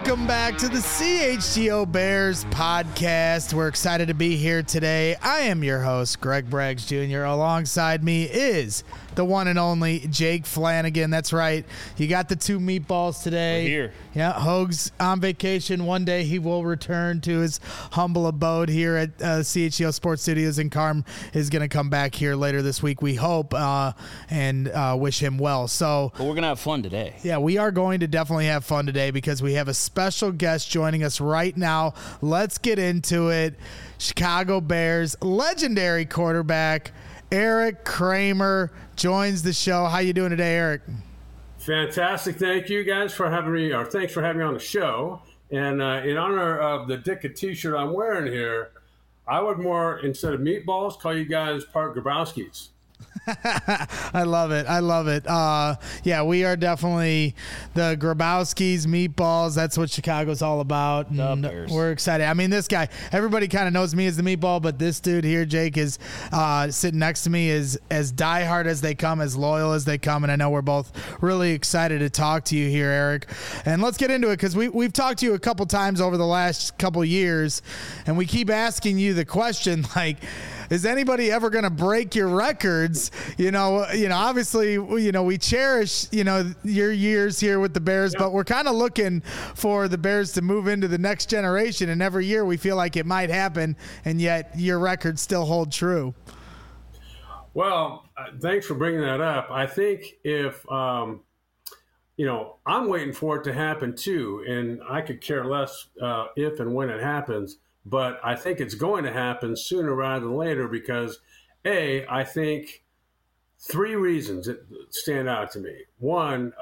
Welcome back to the CHGO Bears podcast. We're excited to be here today. I am your host, Greg Braggs Jr. Alongside me is the one and only Jake Flanagan. That's right. You got the two meatballs today. We're here. Yeah, Hoag's on vacation. One day he will return to his humble abode here at CHGO Sports Studios, and Carm is going to come back here later this week, we hope, and wish him well. So, but we're going to have fun today. Yeah, we are going to definitely have fun today because we have a special guest joining us right now. Let's get into it. Chicago Bears legendary quarterback Erik Kramer joins the show. How you doing today, Erik? Fantastic. Thank you guys for having me, or thanks for having me on the show. And in honor of the Dicka t-shirt I'm wearing here, I would more, instead of meatballs, call you guys Park Grabowskis. I love it. I love it. Yeah, we are definitely the Grabowskis, meatballs. That's what Chicago's all about. And we're excited. I mean, this guy, everybody kind of knows me as the meatball, but this dude here, Jake, is sitting next to me, is as diehard as they come, as loyal as they come. And I know we're both really excited to talk to you here, Erik. And let's get into it because we've talked to you a couple times over the last couple years, and we keep asking you the question, like, is anybody ever going to break your records? You know, obviously, we cherish, your years here with the Bears, but we're kind of looking for the Bears to move into the next generation. And every year we feel like it might happen, and yet your records still hold true. Well, thanks for bringing that up. I think if, I'm waiting for it to happen too, and I could care less if and when it happens. But I think it's going to happen sooner rather than later because, I think three reasons that stand out to me. One,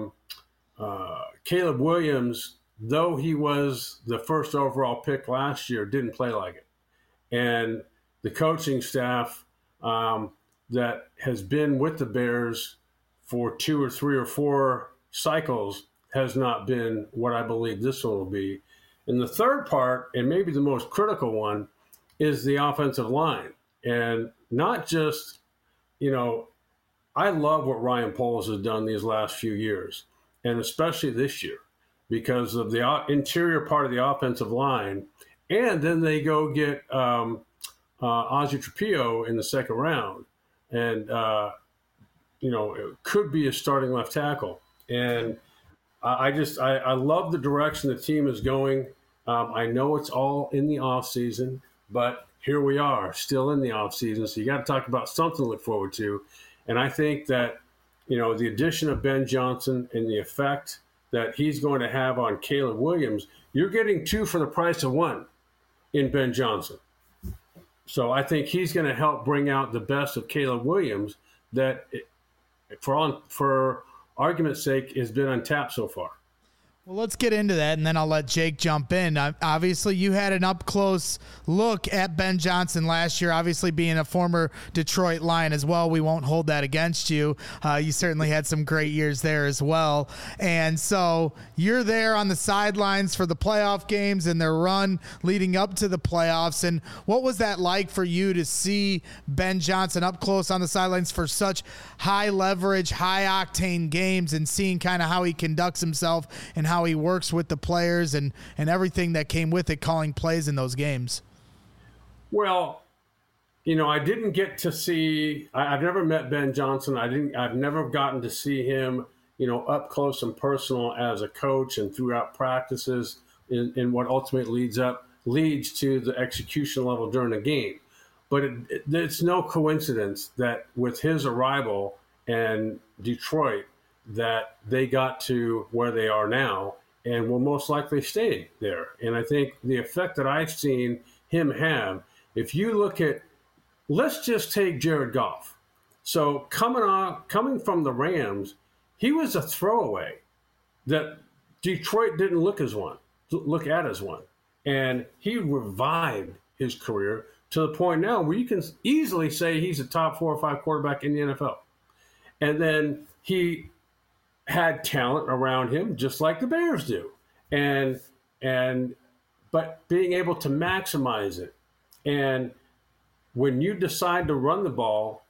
Caleb Williams, though he was the first overall pick last year, didn't play like it. And the coaching staff that has been with the Bears for 2 or 3 or 4 cycles has not been what I believe this one will be. And the third part, and maybe the most critical one, is the offensive line. And not just, I love what Ryan Poles has done these last few years, and especially this year, because of the interior part of the offensive line. And then they go get Ozzie Trapillo in the second round. And, it could be a starting left tackle. And I love the direction the team is going. I know it's all in the off season, but here we are still in the off season. So you got to talk about something to look forward to. And I think that, the addition of Ben Johnson and the effect that he's going to have on Caleb Williams, you're getting 2 for the price of 1 in Ben Johnson. So I think he's going to help bring out the best of Caleb Williams that, for argument's sake, has been untapped so far. Well, let's get into that, and then I'll let Jake jump in. Obviously, you had an up-close look at Ben Johnson last year, obviously being a former Detroit Lion as well. We won't hold that against you. You certainly had some great years there as well. And so you're there on the sidelines for the playoff games and their run leading up to the playoffs. And what was that like for you to see Ben Johnson up close on the sidelines for such high-leverage, high-octane games and seeing kind of how he conducts himself and how he works with the players and everything that came with it, calling plays in those games? Well, I didn't get to see, I've never met Ben Johnson. I've never gotten to see him, up close and personal as a coach and throughout practices in what ultimately leads to the execution level during the game. But it's no coincidence that with his arrival in Detroit, that they got to where they are now and will most likely stay there. And I think the effect that I've seen him have, if you look at, let's just take Jared Goff. So coming from the Rams, he was a throwaway that Detroit didn't look at as one. And he revived his career to the point now where you can easily say he's a top 4 or 5 quarterback in the NFL. And then he had talent around him, just like the Bears do, but being able to maximize it. And when you decide to run the ball,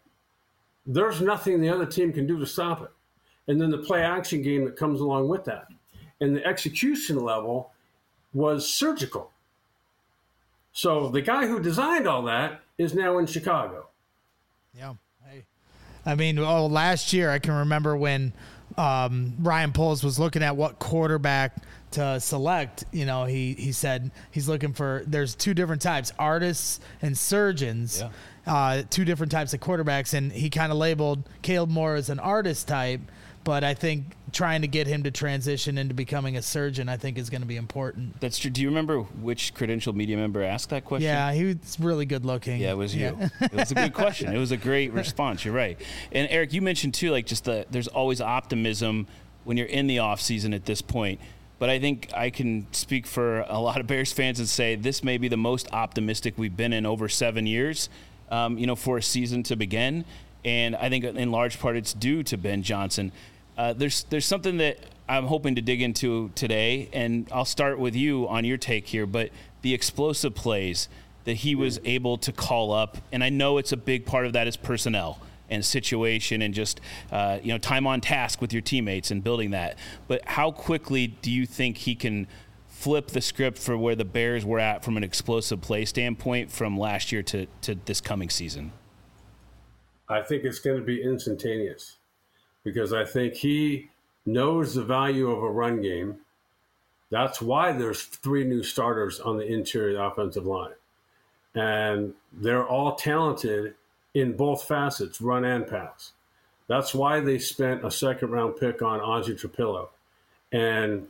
there's nothing the other team can do to stop it. And then the play action game that comes along with that. and the execution level was surgical. So the guy who designed all that is now in Chicago. Yeah. Hey. I mean, last year I can remember when Ryan Poles was looking at what quarterback to select. You know, he said he's looking for, there's two different types, artists and surgeons. Yeah. Two different types of quarterbacks, and he kind of labeled Caleb Moore as an artist type. But I think trying to get him to transition into becoming a surgeon, I think, is going to be important. That's true. Do you remember which credentialed media member asked that question? Yeah, he was really good looking. Yeah, it was you. It was a good question. It was a great response. You're right. And Eric, you mentioned too, like just there's always optimism when you're in the off season at this point. But I think I can speak for a lot of Bears fans and say this may be the most optimistic we've been in over 7 years, for a season to begin. And I think in large part it's due to Ben Johnson. There's something that I'm hoping to dig into today, and I'll start with you on your take here, but the explosive plays that he was able to call up, and I know it's a big part of that is personnel and situation and just time on task with your teammates and building that. But how quickly do you think he can flip the script for where the Bears were at from an explosive play standpoint from last year to this coming season? I think it's going to be instantaneous, because I think he knows the value of a run game. That's why there's 3 new starters on the interior offensive line. And they're all talented in both facets, run and pass. That's why they spent a second-round pick on Ozzie Trapillo. And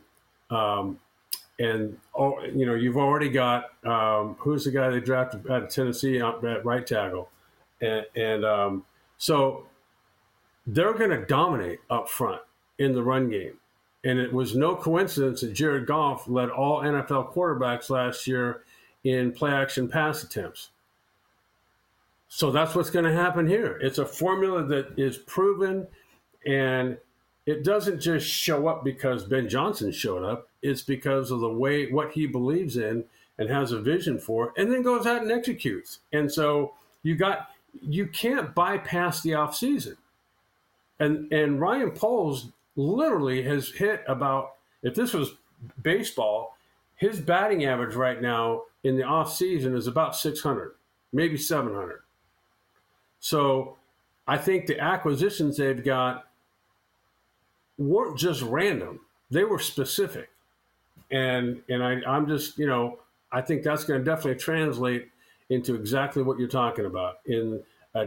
you've already got, who's the guy they drafted out of Tennessee at right tackle? So they're going to dominate up front in the run game. And it was no coincidence that Jared Goff led all NFL quarterbacks last year in play-action pass attempts. So that's what's going to happen here. It's a formula that is proven, and it doesn't just show up because Ben Johnson showed up. It's because of the way, what he believes in and has a vision for, and then goes out and executes. And so you can't bypass the offseason. And Ryan Poles literally has hit about, if this was baseball, his batting average right now in the offseason is about 600, maybe 700. So I think the acquisitions they've got weren't just random. They were specific. And I'm just, I think that's going to definitely translate into exactly what you're talking about in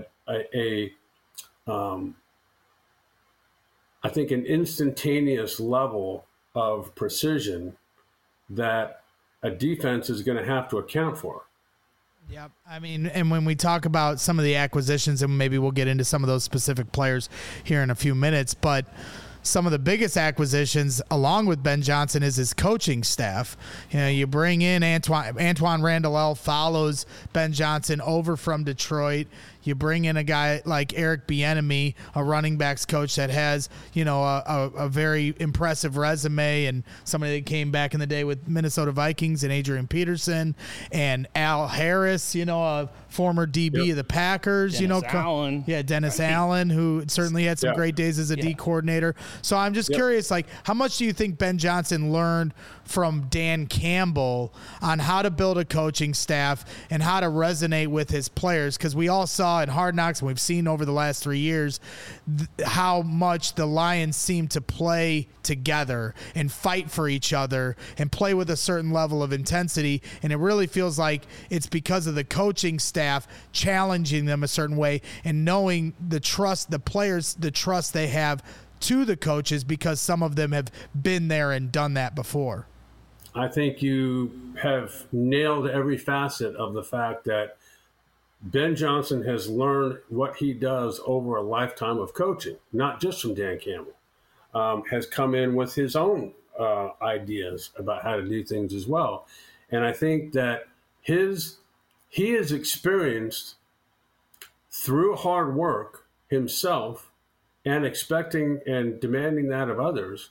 I think an instantaneous level of precision that a defense is going to have to account for. Yep. I mean, and when we talk about some of the acquisitions, and maybe we'll get into some of those specific players here in a few minutes, but some of the biggest acquisitions along with Ben Johnson is his coaching staff. You bring in Antoine Randall follows Ben Johnson over from Detroit. You bring in a guy like Eric Bieniemy, a running backs coach that has, a very impressive resume, and somebody that came back in the day with Minnesota Vikings and Adrian Peterson, and Al Harris, a former DB of the Packers. Allen. Yeah, Dennis Allen, who certainly had some great days as a D coordinator. So I'm just curious, how much do you think Ben Johnson learned from Dan Campbell on how to build a coaching staff and how to resonate with his players? Because we all saw in Hard Knocks, and we've seen over the last 3 years, how much the Lions seem to play together and fight for each other and play with a certain level of intensity. And it really feels like it's because of the coaching staff challenging them a certain way and knowing the trust, the players, the trust they have to the coaches, because some of them have been there and done that before. I think you have nailed every facet of the fact that Ben Johnson has learned what he does over a lifetime of coaching, not just from Dan Campbell, has come in with his own ideas about how to do things as well. And I think that he is experienced through hard work himself and expecting and demanding that of others.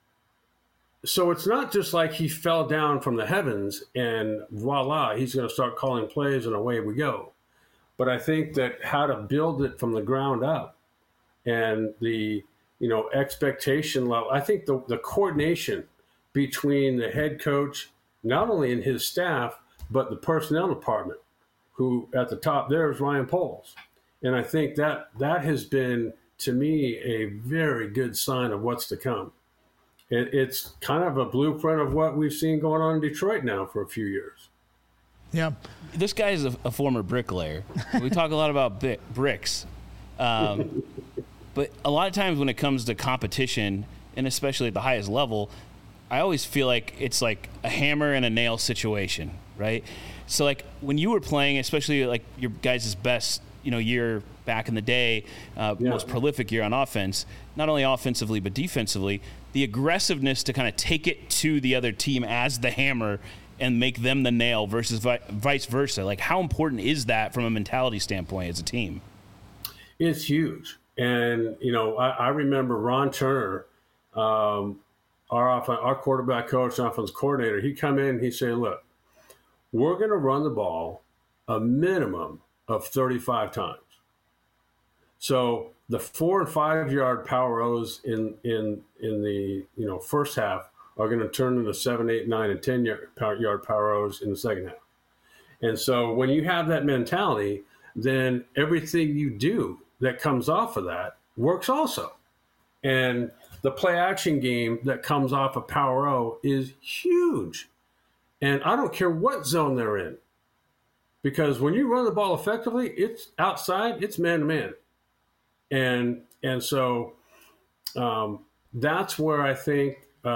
So it's not just like he fell down from the heavens and voila, he's going to start calling plays and away we go. But I think that how to build it from the ground up and the expectation level, I think the coordination between the head coach, not only in his staff, but the personnel department, who at the top there is Ryan Poles. And I think that has been, to me, a very good sign of what's to come. It's kind of a blueprint of what we've seen going on in Detroit now for a few years. Yeah. This guy is a former bricklayer. We talk a lot about bricks. But a lot of times when it comes to competition, and especially at the highest level, I always feel like it's like a hammer and a nail situation, right? So like when you were playing, especially like your guys' best, year back in the day, most prolific year on offense, not only offensively but defensively, the aggressiveness to kind of take it to the other team as the hammer and make them the nail versus vice versa. Like, how important is that from a mentality standpoint as a team? It's huge. And, I remember Ron Turner, our quarterback coach, offense coordinator, he'd come in and he'd say, look, we're going to run the ball a minimum of 35 times. So the 4 and 5 yard power O's in the first half are going to turn into 7, 8, 9, and 10 yard power O's in the second half. And so when you have that mentality, then everything you do that comes off of that works also. And the play action game that comes off of power O is huge. And I don't care what zone they're in, because when you run the ball effectively, it's outside, it's man to man. And so that's where I think,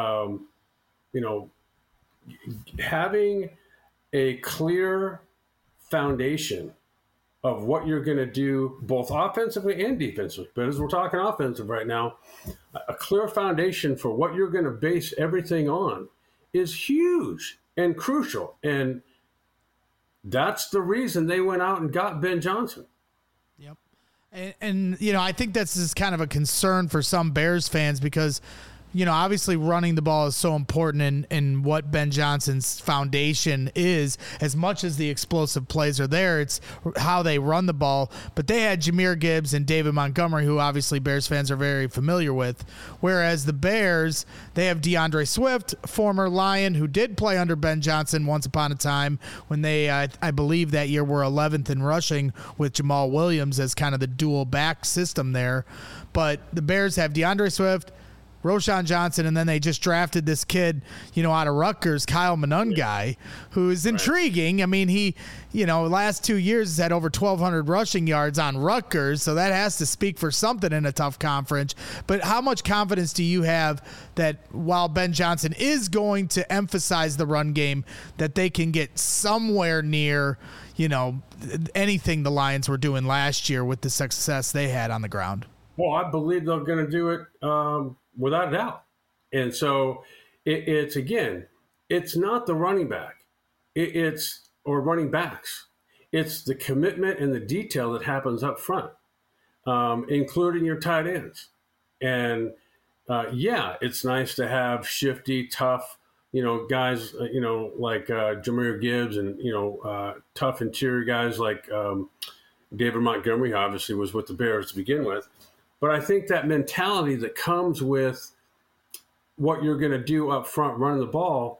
having a clear foundation of what you're going to do both offensively and defensively, but as we're talking offensive right now, a clear foundation for what you're going to base everything on is huge and crucial. And that's the reason they went out and got Ben Johnson. Yep. And I think this is kind of a concern for some Bears fans because, obviously running the ball is so important in what Ben Johnson's foundation is. As much as the explosive plays are there, it's how they run the ball. But they had Jahmyr Gibbs and David Montgomery, who obviously Bears fans are very familiar with. Whereas the Bears, they have DeAndre Swift, former Lion, who did play under Ben Johnson once upon a time when they, I believe that year, were 11th in rushing with Jamal Williams as kind of the dual back system there. But the Bears have DeAndre Swift, Roschon Johnson, and then they just drafted this kid, out of Rutgers, Kyle Monangai, who is intriguing. I mean, he, last 2 years has had over 1,200 rushing yards on Rutgers, so that has to speak for something in a tough conference. But how much confidence do you have that while Ben Johnson is going to emphasize the run game, that they can get somewhere near, anything the Lions were doing last year with the success they had on the ground? Well, I believe they're going to do it without a doubt. And so it's not the running back. Or running backs. It's the commitment and the detail that happens up front, including your tight ends. And, it's nice to have shifty, tough, guys, like Jahmyr Gibbs and, tough interior guys like David Montgomery, who obviously was with the Bears to begin with. But I think that mentality that comes with what you're going to do up front, running the ball,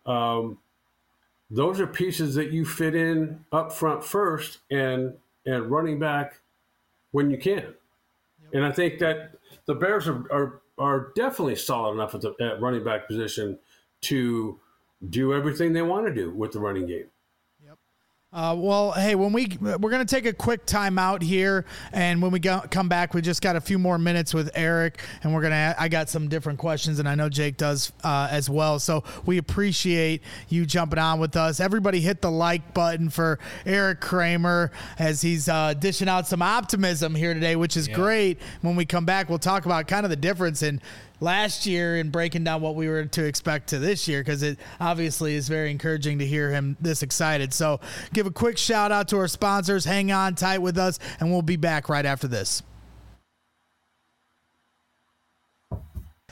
those are pieces that you fit in up front first and running back when you can. Yep. And I think that the Bears are definitely solid enough at running back position to do everything they want to do with the running game. Well, hey, we're going to take a quick time out here, and when we come back, we just got a few more minutes with Eric, and I got some different questions, and I know Jake does as well. So we appreciate you jumping on with us. Everybody hit the like button for Eric Kramer as he's dishing out some optimism here today, which is great. When we come back, we'll talk about kind of the difference in last year and breaking down what we were to expect to this year, because it obviously is very encouraging to hear him this excited. So give a quick shout out to our sponsors. Hang on tight with us, and we'll be back right after this.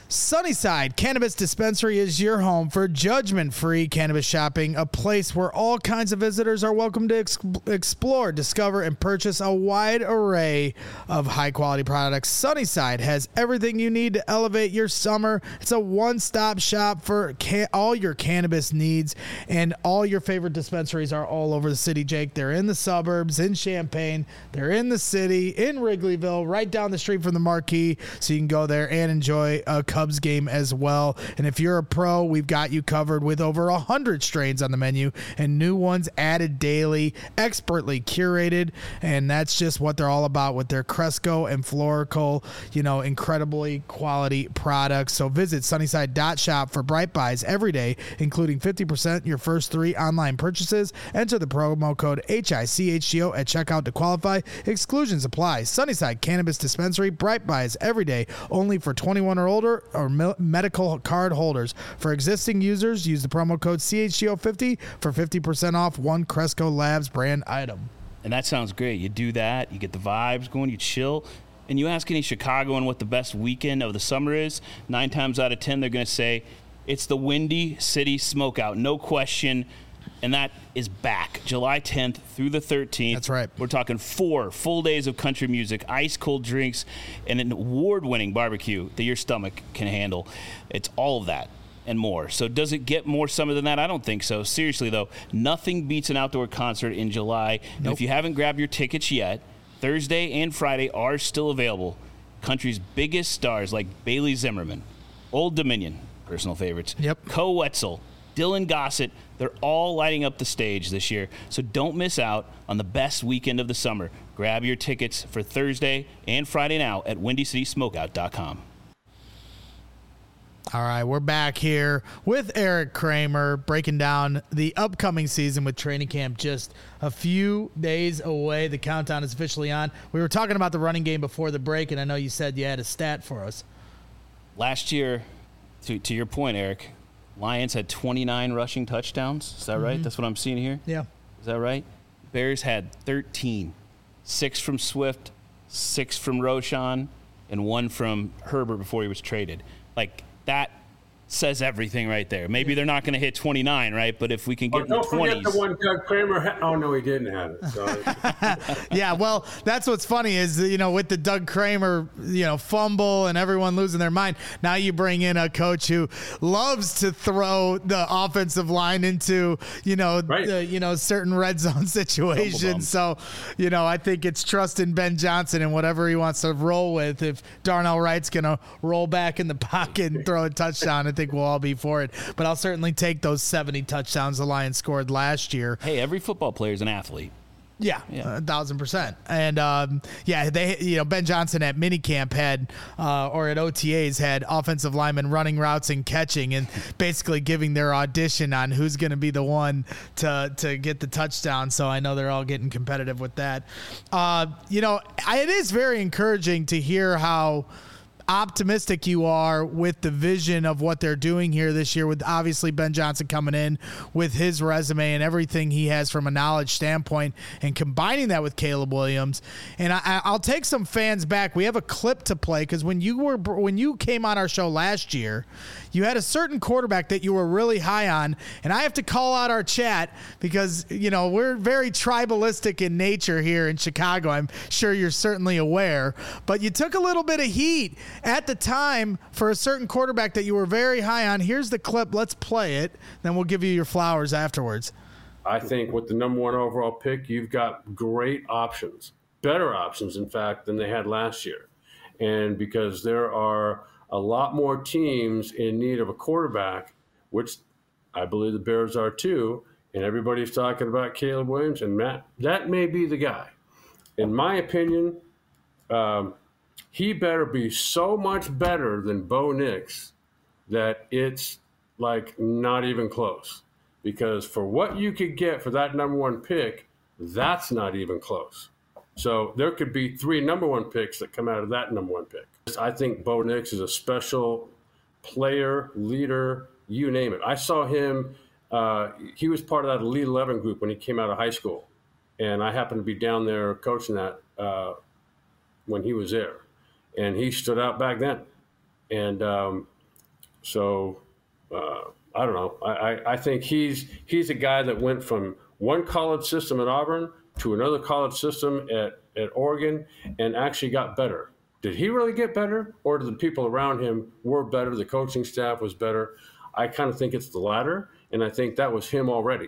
Sunnyside Cannabis Dispensary is your home for judgment-free cannabis shopping, a place where all kinds of visitors are welcome to explore, discover, and purchase a wide array of high-quality products. Sunnyside has everything you need to elevate your summer. It's a one-stop shop for all your cannabis needs, and all your favorite dispensaries are all over the city, Jake. They're in the suburbs, in Champaign. They're in the city, in Wrigleyville, right down the street from the Marquee, so you can go there and enjoy a Cubs game as well. And if you're a pro, we've got you covered with over 100 strains on the menu and new ones added daily, expertly curated. And that's just what they're all about with their Cresco and Florical, incredibly quality products. So visit sunnyside.shop for Bright Buys every day, including 50% your first 3 online purchases. Enter the promo code HICHGO at checkout to qualify. Exclusions apply. Sunnyside Cannabis Dispensary, Bright Buys every day, only for 21 or older or medical card holders. For existing users, use the promo code CHGO50 for 50% off one Cresco Labs brand item. And that sounds great. You do that, you get the vibes going, you chill, and you ask any Chicagoan what the best weekend of the summer is, 9 times out of 10 they're going to say it's the Windy City Smokeout, no question. And that is back July 10th through the 13th. That's right. We're talking 4 full days of country music, ice cold drinks, and an award-winning barbecue that your stomach can handle. It's all of that and more. So does it get more summer than that? I don't think so. Seriously, though, nothing beats an outdoor concert in July. Nope. And if you haven't grabbed your tickets yet, Thursday and Friday are still available. Country's biggest stars like Bailey Zimmerman, Old Dominion, personal favorites, Co Wetzel, Dylan Gossett, they're all lighting up the stage this year. So don't miss out on the best weekend of the summer. Grab your tickets for Thursday and Friday now at WindyCitySmokeout.com. All right, we're back here with Eric Kramer breaking down the upcoming season with training camp just a few days away. The countdown is officially on. We were talking about the running game before the break, and I know you said you had a stat for us. Last year, to your point, Eric, Lions had 29 rushing touchdowns. Is that right? That's what I'm seeing here? Yeah. Is that right? Bears had 13. 6 from Swift, 6 from Roschon, and 1 from Herbert before he was traded. Like, that says everything right there. Maybe they're not going to hit 29, right? But if we can get in the 20s. Don't forget the one Doug Kramer had. Oh, no, he didn't have it. Sorry. Yeah, well, that's what's funny is, with the Doug Kramer, fumble and everyone losing their mind, now you bring in a coach who loves to throw the offensive line into, certain red zone situations. So, I think it's trusting Ben Johnson and whatever he wants to roll with. If Darnell Wright's going to roll back in the pocket and throw a touchdown, I think we'll all be for it. But I'll certainly take those 70 touchdowns the Lions scored last year. Hey, every football player is an athlete. Yeah, 1,000%. And they, Ben Johnson at minicamp had, or at OTAs had offensive linemen running routes and catching, and basically giving their audition on who's going to be the one to get the touchdown. So I know they're all getting competitive with that. It is very encouraging to hear how optimistic you are with the vision of what they're doing here this year, with obviously Ben Johnson coming in with his resume and everything he has from a knowledge standpoint, and combining that with Caleb Williams. And I'll take some fans back. We have a clip to play because when you came on our show last year, you had a certain quarterback that you were really high on, and I have to call out our chat because we're very tribalistic in nature here in Chicago. I'm sure you're certainly aware, but you took a little bit of heat at the time for a certain quarterback that you were very high on. Here's the clip. Let's play it. Then we'll give you your flowers afterwards. I think with the number 1 overall pick, you've got great options, better options, in fact, than they had last year. And because there are a lot more teams in need of a quarterback, which I believe the Bears are too, and everybody's talking about Caleb Williams, and Matt, that may be the guy. In my opinion, he better be so much better than Bo Nix that it's like not even close. Because for what you could get for that number 1 pick, that's not even close. So there could be 3 number 1 picks that come out of that number 1 pick. I think Bo Nix is a special player, leader, you name it. I saw him, he was part of that Elite 11 group when he came out of high school. And I happened to be down there coaching that when he was there. And he stood out back then. And So I don't know. I think he's a guy that went from one college system at Auburn to another college system at Oregon and actually got better. Did he really get better, or did the people around him were better? The coaching staff was better. I kind of think it's the latter, and I think that was him already.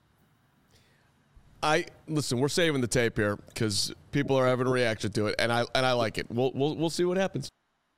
Listen, we're saving the tape here because people are having a reaction to it, and I like it. We'll see what happens.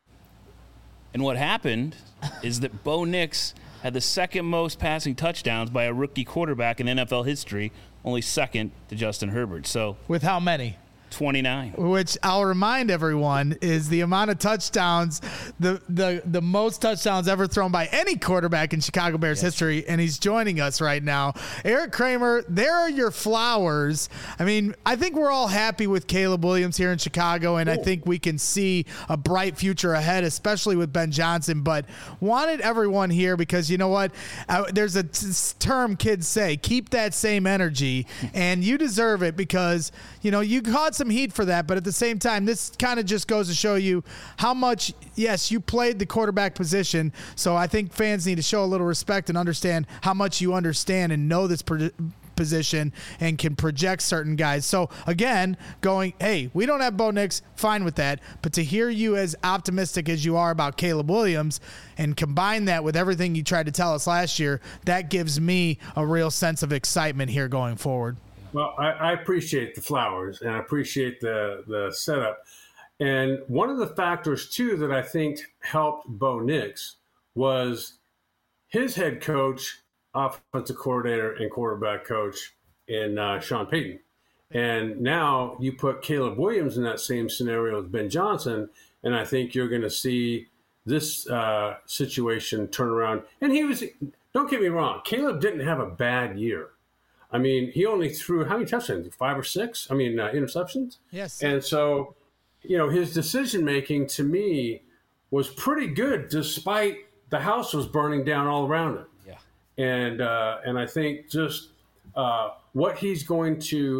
And what happened is that Bo Nix had the second most passing touchdowns by a rookie quarterback in NFL history, only second to Justin Herbert. So with how many? 29. Which I'll remind everyone is the amount of touchdowns, the most touchdowns ever thrown by any quarterback in Chicago Bears history, and he's joining us right now. Eric Kramer, there are your flowers. I mean, I think we're all happy with Caleb Williams here in Chicago, and I think we can see a bright future ahead, especially with Ben Johnson, but wanted everyone here because you know what? There's a term kids say, keep that same energy, and you deserve it because, you know, you caught some heat for that, but at the same time, this kind of just goes to show you how much, yes, you played the quarterback position, so I think fans need to show a little respect and understand how much you understand and know this position and can project certain guys. So again, going, hey, we don't have Bo Nix, fine with that, but to hear you as optimistic as you are about Caleb Williams and combine that with everything you tried to tell us last year, that gives me a real sense of excitement here going forward. Well, I appreciate the flowers and I appreciate the setup. And one of the factors, too, that I think helped Bo Nix was his head coach, offensive coordinator, and quarterback coach in Sean Payton. And now you put Caleb Williams in that same scenario with Ben Johnson, and I think you're going to see this situation turn around. And don't get me wrong, Caleb didn't have a bad year. I mean, he only threw how many touchdowns? 5 or 6? I mean, interceptions? Yes. And so, you know, his decision-making to me was pretty good despite the house was burning down all around him. Yeah. And I think just how he's going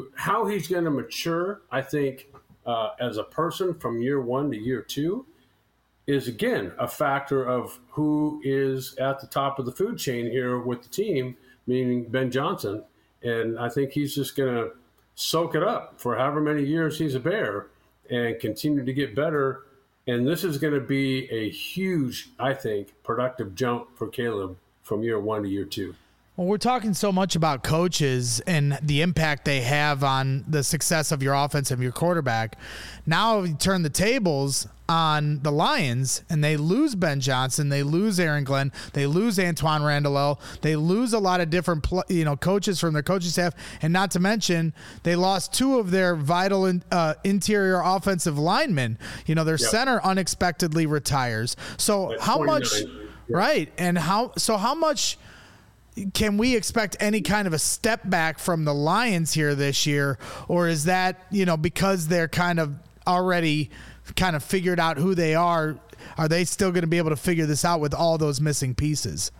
to mature, I think, as a person from year 1 to year 2 is, again, a factor of who is at the top of the food chain here with the team, meaning Ben Johnson. And I think he's just going to soak it up for however many years he's a Bear and continue to get better. And this is going to be a huge, I think, productive jump for Caleb from year 1 to year 2. Well, we're talking so much about coaches and the impact they have on the success of your offense and your quarterback. Now you turn the tables on the Lions and they lose Ben Johnson, they lose Aaron Glenn, they lose Antoine Randall, they lose a lot of different coaches from their coaching staff, and not to mention they lost 2 of their vital interior offensive linemen. You know, their center unexpectedly retires. So how much, right? And how much can we expect any kind of a step back from the Lions here this year? Or is that, you know, because they're kind of already kind of figured out who they are they still going to be able to figure this out with all those missing pieces?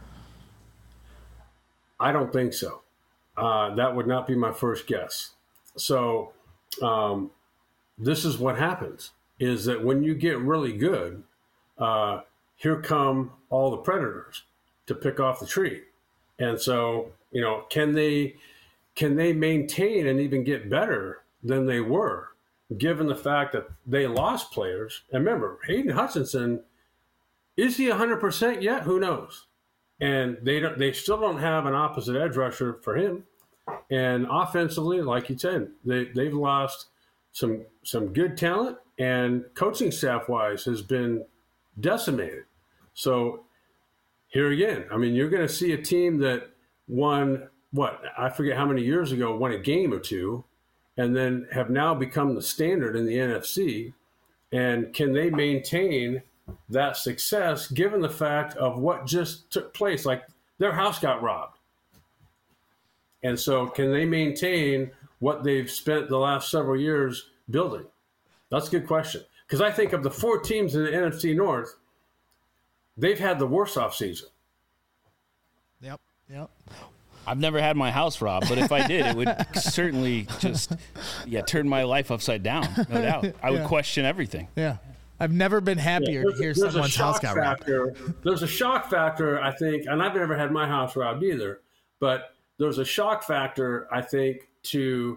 I don't think so. That would not be my first guess. So this is what happens, is that when you get really good, here come all the predators to pick off the tree. And so, you know, can they maintain and even get better than they were, given the fact that they lost players? And remember, Hayden Hutchinson, is he 100% yet? Who knows? And they still don't have an opposite edge rusher for him. And offensively, like you said, they've lost some good talent, and coaching staff wise has been decimated. So here again, I mean, you're going to see a team that won, I forget how many years ago, won a game or 2, and then have now become the standard in the NFC. And can they maintain that success given the fact of what just took place? Like, their house got robbed. And so can they maintain what they've spent the last several years building? That's a good question. Because I think of the 4 teams in the NFC North, they've had the worst offseason. Yep. I've never had my house robbed, but if I did, it would certainly just turn my life upside down, no doubt. I would question everything. Yeah. I've never been happier to hear someone's house got robbed. There's a shock factor, I think, and I've never had my house robbed either, but there's a shock factor, I think, to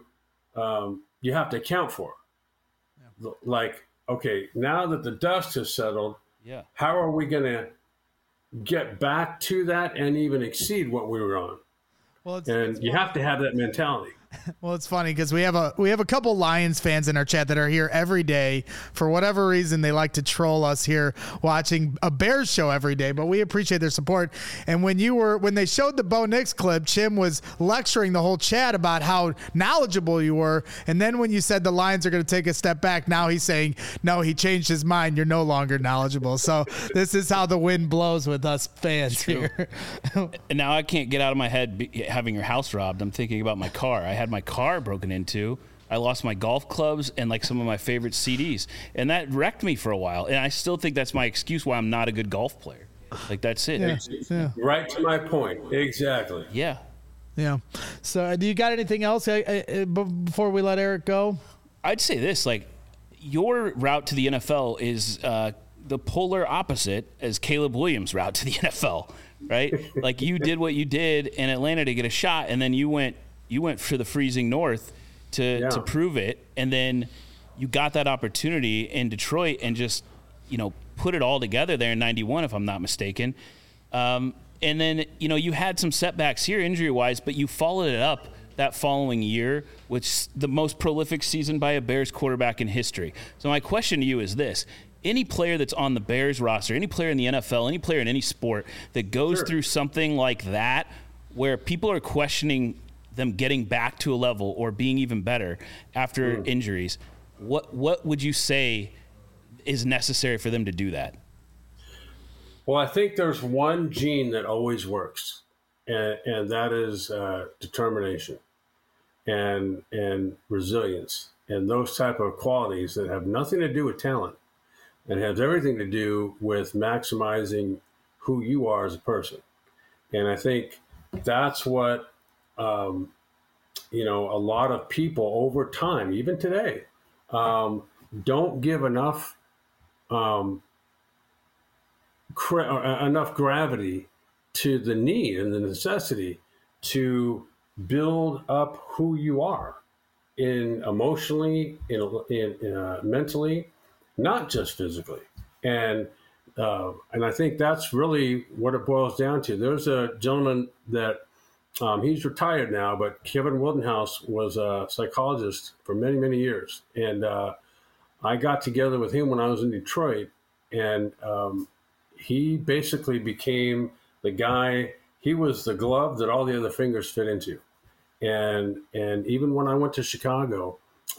you have to account for. Yeah. Like, okay, now that the dust has settled, how are we going to get back to that and even exceed what we were on? Well, you have to have that mentality. Well, it's funny because we have a couple Lions fans in our chat that are here every day. For whatever reason, they like to troll us here watching a Bears show every day, but we appreciate their support. And when they showed the Bo Nix clip, Chim was lecturing the whole chat about how knowledgeable you were. And then when you said the Lions are going to take a step back, now he's saying, no, he changed his mind. You're no longer knowledgeable. So this is how the wind blows with us fans here. And now I can't get out of my head having your house robbed. I'm thinking about my car. I had my car broken into. I lost my golf clubs and like some of my favorite CDs, and that wrecked me for a while. And I still think that's my excuse why I'm not a good golf player. Like, that's it. Yeah. Right to my point. Exactly. Yeah. Yeah. So do you got anything else before we let Eric go? I'd say this, like, your route to the NFL is the polar opposite as Caleb Williams' route to the NFL, right? Like, you did what you did in Atlanta to get a shot, and then you went for the freezing north to prove it, and then you got that opportunity in Detroit and just, put it all together there in 91, if I'm not mistaken. And then, you had some setbacks here injury-wise, but you followed it up that following year with the most prolific season by a Bears quarterback in history. So my question to you is this. Any player that's on the Bears roster, any player in the NFL, any player in any sport that goes through something like that where people are questioning them getting back to a level or being even better after injuries, what would you say is necessary for them to do that? Well, I think there's one gene that always works, and that is determination and resilience, and those type of qualities that have nothing to do with talent and has everything to do with maximizing who you are as a person. And I think that's what a lot of people over time, even today, don't give enough enough gravity to the need and the necessity to build up who you are emotionally, mentally, not just physically. And I think that's really what it boils down to. There's a gentleman that he's retired now, but Kevin Wildenhouse was a psychologist for many, many years. And I got together with him when I was in Detroit, and he basically became the guy. He was the glove that all the other fingers fit into. And even when I went to Chicago,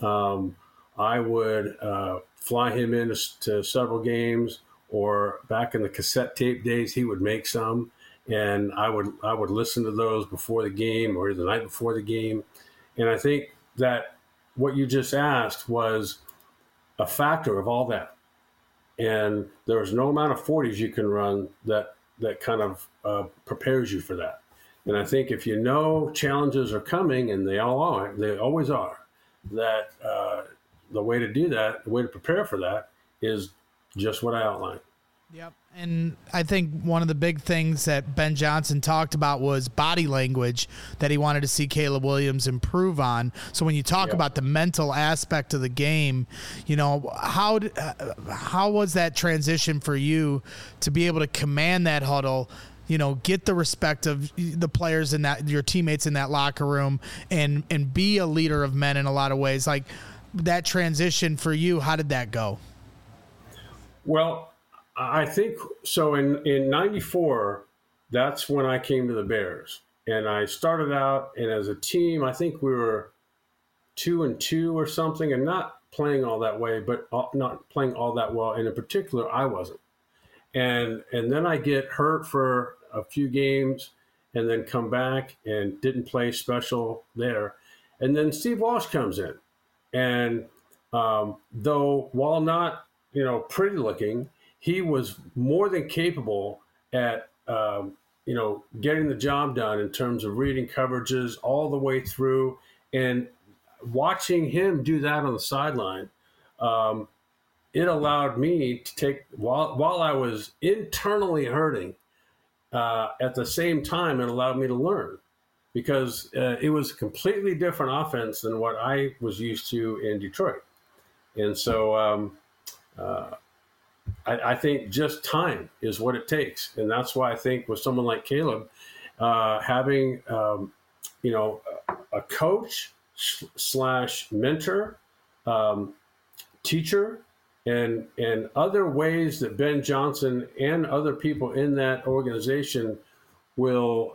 I would fly him in to several games, or back in the cassette tape days, he would make some. And I would listen to those before the game or the night before the game. And I think that what you just asked was a factor of all that. And there's no amount of 40s you can run that kind of prepares you for that. And I think if you know challenges are coming, and they always are, that the way to do that, the way to prepare for that is just what I outlined. Yep. And I think one of the big things that Ben Johnson talked about was body language that he wanted to see Caleb Williams improve on. So when you talk about the mental aspect of the game, how was that transition for you to be able to command that huddle, get the respect of the players in that, your teammates in that locker room, and be a leader of men in a lot of ways? Like, that transition for you, how did that go? Well, I think so. In 94, that's when I came to the Bears, and I started out, and as a team, I think we were 2-2 or something, and not playing all that way, but not playing all that well. And in particular, I wasn't. And then I get hurt for a few games, and then come back and didn't play special there. And then Steve Walsh comes in, and though while not pretty looking, he was more than capable at, getting the job done in terms of reading coverages all the way through. And watching him do that on the sideline, it allowed me to take, while I was internally hurting, at the same time, it allowed me to learn, because it was a completely different offense than what I was used to in Detroit. And so I think just time is what it takes. And that's why I think with someone like Caleb, having, a coach / mentor, teacher, and other ways that Ben Johnson and other people in that organization will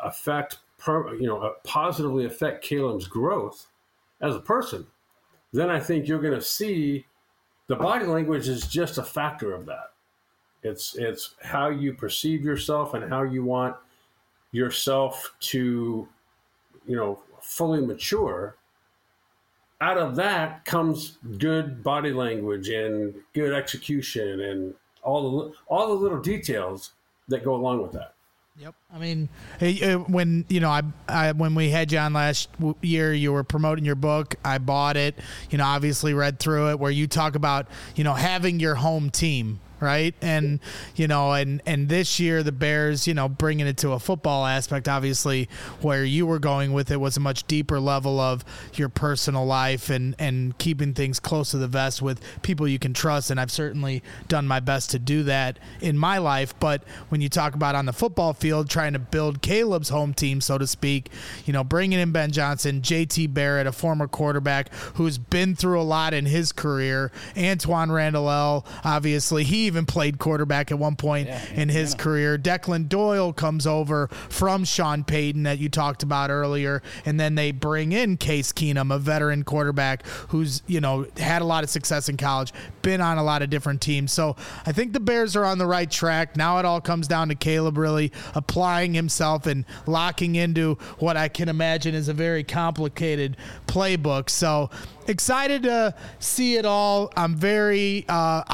positively affect Caleb's growth as a person, then I think you're going to see the body language is just a factor of that. It's how you perceive yourself and how you want yourself to, fully mature. Out of that comes good body language and good execution and all the little details that go along with that. Yep. I mean, when when we had you on last year, you were promoting your book. I bought it. Obviously read through it, where you talk about having your home team. Right. And, and this year the Bears, bringing it to a football aspect, obviously where you were going with it was a much deeper level of your personal life and keeping things close to the vest with people you can trust. And I've certainly done my best to do that in my life. But when you talk about on the football field, trying to build Caleb's home team, so to speak, bringing in Ben Johnson, JT Barrett, a former quarterback who's been through a lot in his career, Antoine Randall, obviously he even played quarterback at one point in his career. Declan Doyle comes over from Sean Payton that you talked about earlier, and then they bring in Case Keenum, a veteran quarterback who's had a lot of success in college, been on a lot of different teams. So I think the Bears are on the right track. Now it all comes down to Caleb really applying himself and locking into what I can imagine is a very complicated playbook. So excited to see it all. I'm very,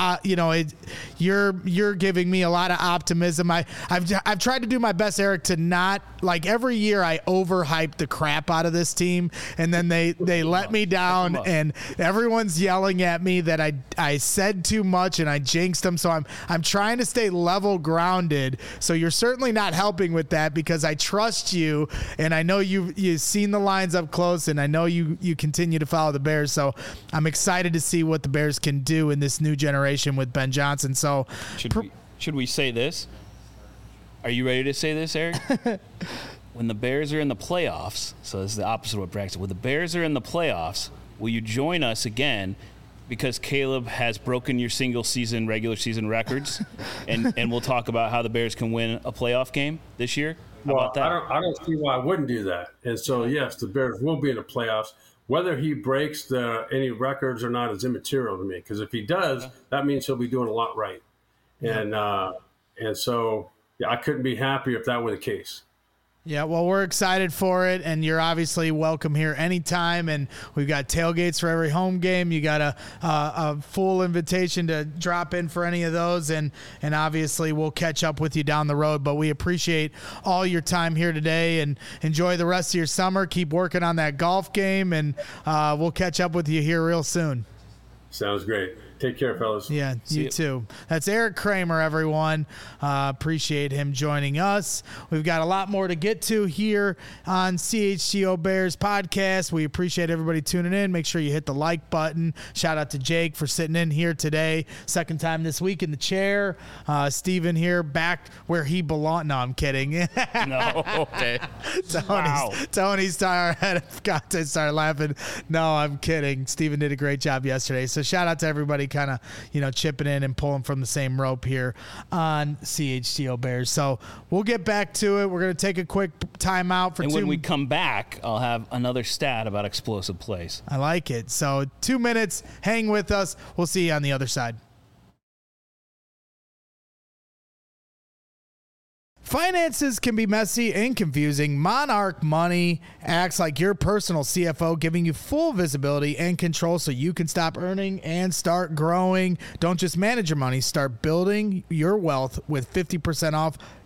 you're giving me a lot of optimism. I've tried to do my best, Eric, to not, like, every year I overhype the crap out of this team, and then they let me down, and everyone's yelling at me that I said too much and I jinxed them. So I'm trying to stay level grounded. So you're certainly not helping with that, because I trust you, and I know you've seen the lines up close, and I know you continue to follow the Bears. So I'm excited to see what the Bears can do in this new generation with Ben Johnson. So should we say this? Are you ready to say this, Eric? When the Bears are in the playoffs, so this is the opposite of what Braxton said. When the Bears are in the playoffs, will you join us again? Because Caleb has broken your regular season records, and we'll talk about how the Bears can win a playoff game this year. How about that? I don't see why I wouldn't do that. And so, yes, the Bears will be in the playoffs. Whether he breaks any records or not is immaterial to me, because if he does, that means he'll be doing a lot right. And so I couldn't be happier if that were the case. Yeah, well, we're excited for it, and you're obviously welcome here anytime. And we've got tailgates for every home game. You got a full invitation to drop in for any of those, and obviously we'll catch up with you down the road. But we appreciate all your time here today, and enjoy the rest of your summer. Keep working on that golf game, and we'll catch up with you here real soon. Sounds great. Take care, fellas. Yeah, you too. That's Eric Kramer, everyone. Appreciate him joining us. We've got a lot more to get to here on CHGO Bears podcast. We appreciate everybody tuning in. Make sure you hit the like button. Shout out to Jake for sitting in here today. Second time this week in the chair. Steven here back where he belongs. No, I'm kidding. No, okay. Tony started laughing. No, I'm kidding. Steven did a great job yesterday. So shout out to everybody kind of, chipping in and pulling from the same rope here on CHGO Bears. So we'll get back to it. We're going to take a quick timeout for when we come back, I'll have another stat about explosive plays. I like it. So 2 minutes. Hang with us. We'll see you on the other side. Finances can be messy and confusing. Monarch Money acts like your personal CFO, giving you full visibility and control so you can stop earning and start growing. Don't just manage your money. Start building your wealth with 50% off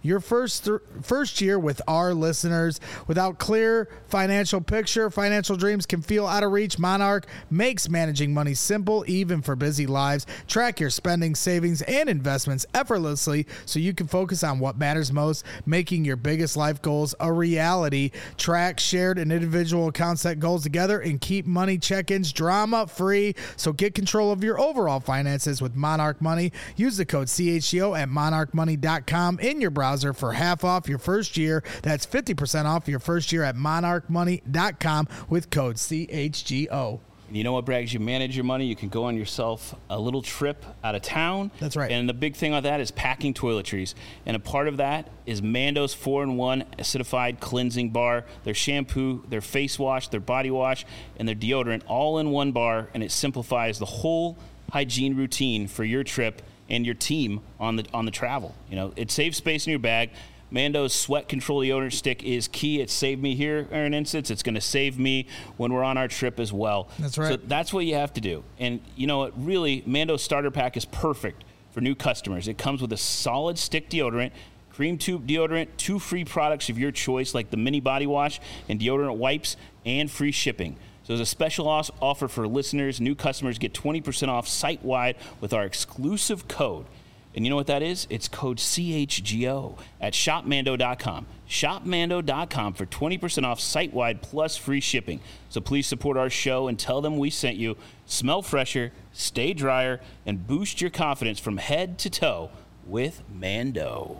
your first year with our listeners. Without clear financial picture, financial dreams can feel out of reach. Monarch makes managing money simple, even for busy lives. Track your spending, savings, and investments effortlessly so you can focus on what matters most, making your biggest life goals a reality. Track shared and individual account set goals together and keep money check-ins drama-free. So get control of your overall finances with Monarch Money. Use the code CHGO at monarchmoney.com in your browser for half off your first year. That's 50% off your first year at monarchmoney.com with code CHGO. You know what, Bragg? As you manage your money, you can go on yourself a little trip out of town. That's right. And the big thing on that is packing toiletries. And a part of that is Mando's 4-in-1 acidified cleansing bar, their shampoo, their face wash, their body wash, and their deodorant all in one bar. And it simplifies the whole hygiene routine for your trip and your team on the travel. You know, it saves space in your bag. Mando's sweat control deodorant stick is key. It saved me here in an instance. It's going to save me when we're on our trip as well. That's right. So that's what you have to do. And you know what? Really, Mando's starter pack is perfect for new customers. It comes with a solid stick deodorant, cream tube deodorant, 2 free products of your choice like the mini body wash and deodorant wipes, and free shipping. So there's a special offer for listeners. New customers get 20% off site-wide with our exclusive code. And you know what that is? It's code CHGO at shopmando.com. Shopmando.com for 20% off site-wide plus free shipping. So please support our show and tell them we sent you. Smell fresher, stay drier, and boost your confidence from head to toe with Mando.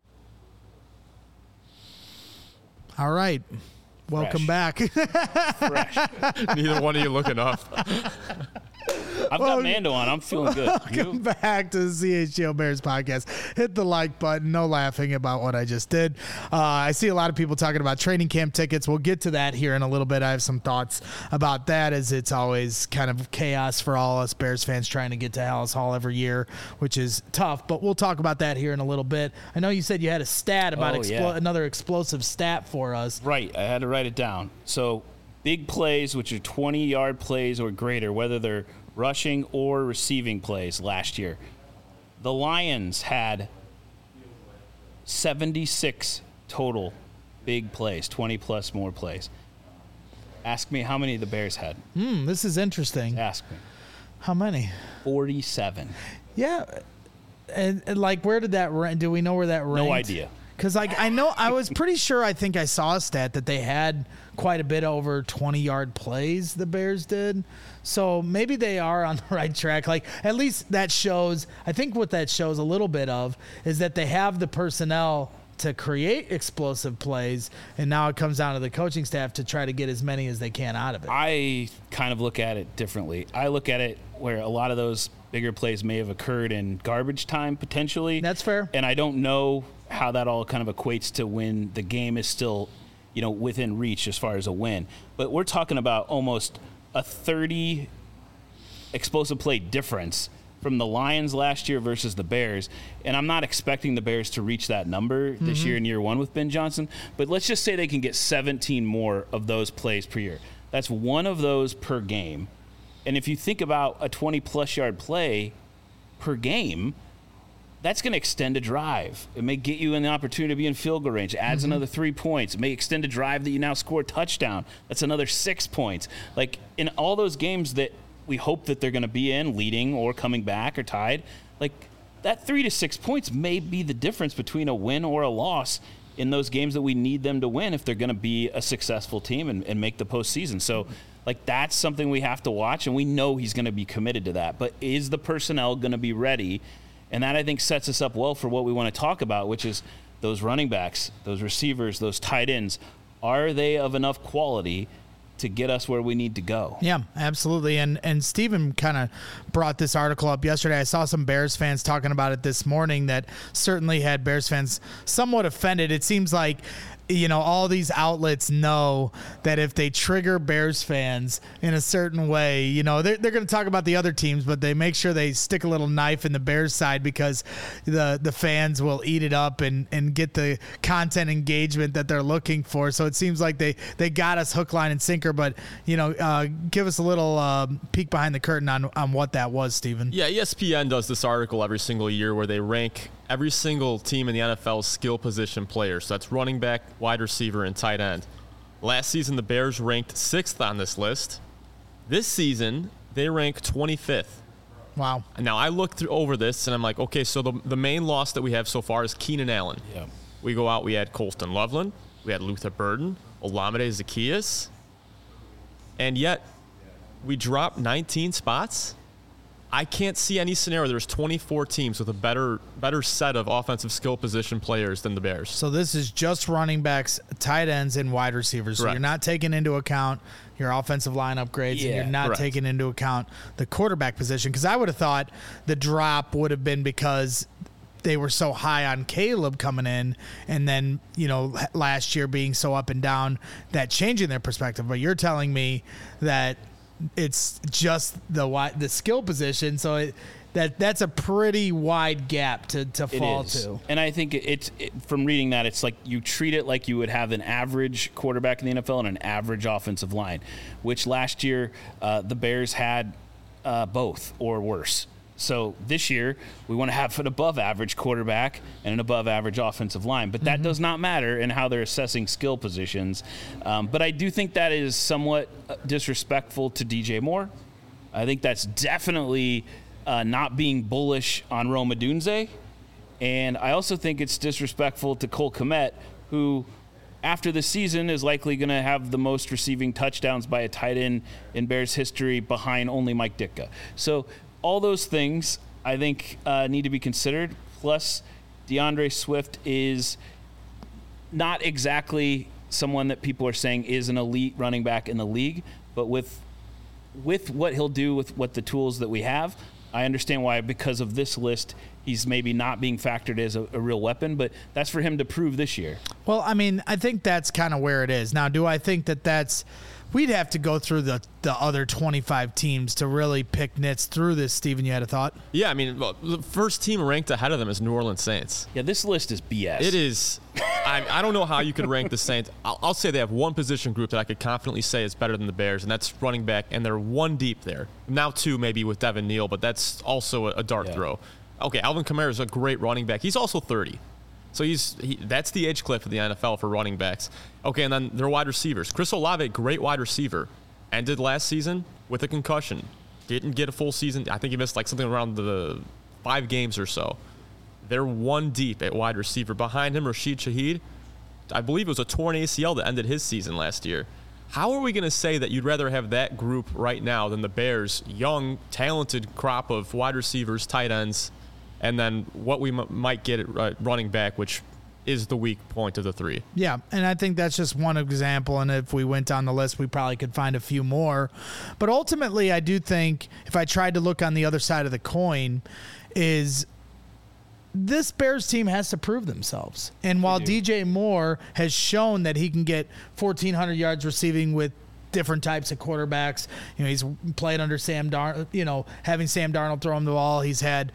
All right. Welcome back. Fresh. Neither one of you looking up. I've got Mando on. I'm feeling good. Welcome back to the CHGO Bears podcast. Hit the like button. No laughing about what I just did. I see a lot of people talking about training camp tickets. We'll get to that here in a little bit. I have some thoughts about that, as it's always kind of chaos for all us Bears fans trying to get to Hallis Hall every year, which is tough. But we'll talk about that here in a little bit. I know you said you had a stat about another explosive stat for us. Right. I had to write it down. So big plays, which are 20-yard plays or greater, whether they're rushing or receiving plays last year. The Lions had 76 total big plays, 20-plus more plays. Ask me how many the Bears had. This is interesting. Ask me. How many? 47. Yeah. And like, where did that rank? Do we know where that ranked? No idea. Because, like, I know I was pretty sure I think I saw a stat that they had quite a bit over 20-yard plays, the Bears did. So maybe they are on the right track. Like, at least that shows, I think what that shows a little bit of is that they have the personnel to create explosive plays, and now it comes down to the coaching staff to try to get as many as they can out of it. I kind of look at it differently. I look at it where a lot of those bigger plays may have occurred in garbage time, potentially. That's fair. And I don't know how that all kind of equates to when the game is still, you know, within reach as far as a win. But we're talking about almost a 30 explosive play difference from the Lions last year versus the Bears. And I'm not expecting the Bears to reach that number this year in year one with Ben Johnson. But let's just say they can get 17 more of those plays per year. That's one of those per game. And if you think about a 20-plus yard play per game, that's going to extend a drive. It may get you an opportunity to be in field goal range. It adds another 3 points. It may extend a drive that you now score a touchdown. That's another 6 points. Like, in all those games that we hope that they're going to be in, leading or coming back or tied, like, that 3 to 6 points may be the difference between a win or a loss in those games that we need them to win if they're going to be a successful team and make the postseason. So, like, that's something we have to watch, and we know he's going to be committed to that. But is the personnel going to be ready? And that, I think, sets us up well for what we want to talk about, which is those running backs, those receivers, those tight ends. Are they of enough quality to get us where we need to go? Yeah, absolutely. And Steven kind of brought this article up yesterday. I saw some Bears fans talking about it this morning that certainly had Bears fans somewhat offended. It seems like, you know, all these outlets know that if they trigger Bears fans in a certain way, you know, they're going to talk about the other teams, but they make sure they stick a little knife in the Bears side because the fans will eat it up and get the content engagement that they're looking for. So it seems like they got us hook, line, and sinker. But, you know, give us a little peek behind the curtain on what that was, Steven. Yeah, ESPN does this article every single year where they rank every single team in the NFL skill position players. So that's running back, wide receiver, and tight end. Last season, the Bears ranked 6th on this list. This season, they rank 25th. Wow. Now, I looked over this, and I'm like, okay, so the main loss that we have so far is Keenan Allen. Yeah. We go out, we had Colston Loveland, we had Luther Burden, Olamide Zaccheaus, and yet we dropped 19 spots. I can't see any scenario. There's 24 teams with a better set of offensive skill position players than the Bears. So this is just running backs, tight ends, and wide receivers. So Correct. you're not taking into account your offensive line upgrades, and you're not Correct. taking into account the quarterback position. Because I would have thought the drop would have been because they were so high on Caleb coming in, and then, last year being so up and down, that changing their perspective. But you're telling me that it's just the skill position, so that's a pretty wide gap to fall to. And I think from reading that, it's like you treat it like you would have an average quarterback in the NFL and an average offensive line, which last year the Bears had both or worse. So this year, we want to have an above-average quarterback and an above-average offensive line. But that does not matter in how they're assessing skill positions. But I do think that is somewhat disrespectful to DJ Moore. I think that's definitely not being bullish on Rome Odunze. And I also think it's disrespectful to Cole Kmet, who, after the season, is likely going to have the most receiving touchdowns by a tight end in Bears history behind only Mike Ditka. So all those things, I think, need to be considered. Plus, DeAndre Swift is not exactly someone that people are saying is an elite running back in the league, but with what he'll do with what the tools that we have, I understand why, because of this list, he's maybe not being factored as a real weapon, but that's for him to prove this year. Well, I mean, I think that's kind of where it is. Now, do I think that's – we'd have to go through the other 25 teams to really pick nits through this. Steven, you had a thought? Yeah, I mean, well, the first team ranked ahead of them is New Orleans Saints. Yeah, this list is BS. It is. I don't know how you could rank the Saints. I'll say they have one position group that I could confidently say is better than the Bears, and that's running back, and they're one deep there. Now two maybe with Devin Neal, but that's also a dart throw. Okay, Alvin Kamara is a great running back. He's also 30. So that's the age cliff of the NFL for running backs. Okay, and then their wide receivers. Chris Olave, great wide receiver, ended last season with a concussion. Didn't get a full season. I think he missed like something around the 5 games or so. They're one deep at wide receiver. Behind him, Rashid Shaheed, I believe it was a torn ACL that ended his season last year. How are we going to say that you'd rather have that group right now than the Bears' young, talented crop of wide receivers, tight ends, and then what we might get at running back, which is the weak point of the 3. Yeah, and I think that's just one example, and if we went down the list, we probably could find a few more. But ultimately, I do think, if I tried to look on the other side of the coin, is this Bears team has to prove themselves. And while DJ Moore has shown that he can get 1,400 yards receiving with different types of quarterbacks. He's played under Sam Darnold, having Sam Darnold throw him the ball. He's had,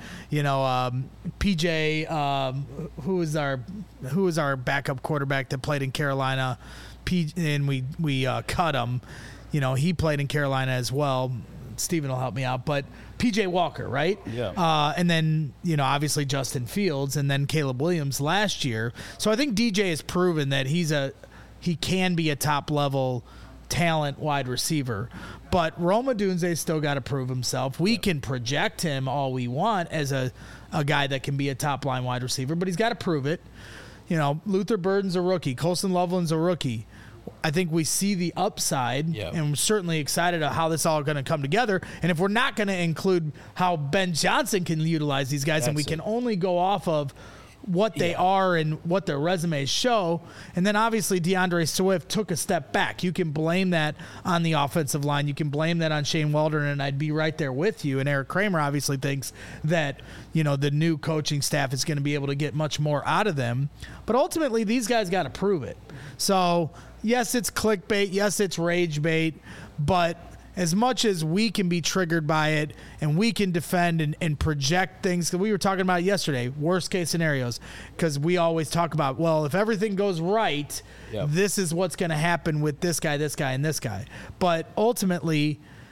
PJ, who is our backup quarterback that played in Carolina, and we cut him. He played in Carolina as well. Steven will help me out, but PJ Walker, right? Yeah. And then, obviously Justin Fields, and then Caleb Williams last year. So I think DJ has proven that he can be a top level talent wide receiver, but Rome Odunze still got to prove himself. We can project him all we want as a guy that can be a top line wide receiver, but he's got to prove it. Luther Burden's a rookie. Colston Loveland's a rookie. I think we see the upside, and we're certainly excited about how this all going to come together. And if we're not going to include how Ben Johnson can utilize these guys, and we can only go off of what they are and what their resumes show. And then obviously DeAndre Swift took a step back. You can blame that on the offensive line. You can blame that on Shane Waldron, and I'd be right there with you. And Eric Kramer obviously thinks that, the new coaching staff is going to be able to get much more out of them. But ultimately, these guys got to prove it. So, yes, it's clickbait. Yes, it's rage bait. But as much as we can be triggered by it and we can defend and project things, because we were talking about yesterday, worst case scenarios, because we always talk about, well, if everything goes right, this is what's going to happen with this guy, and this guy. But ultimately,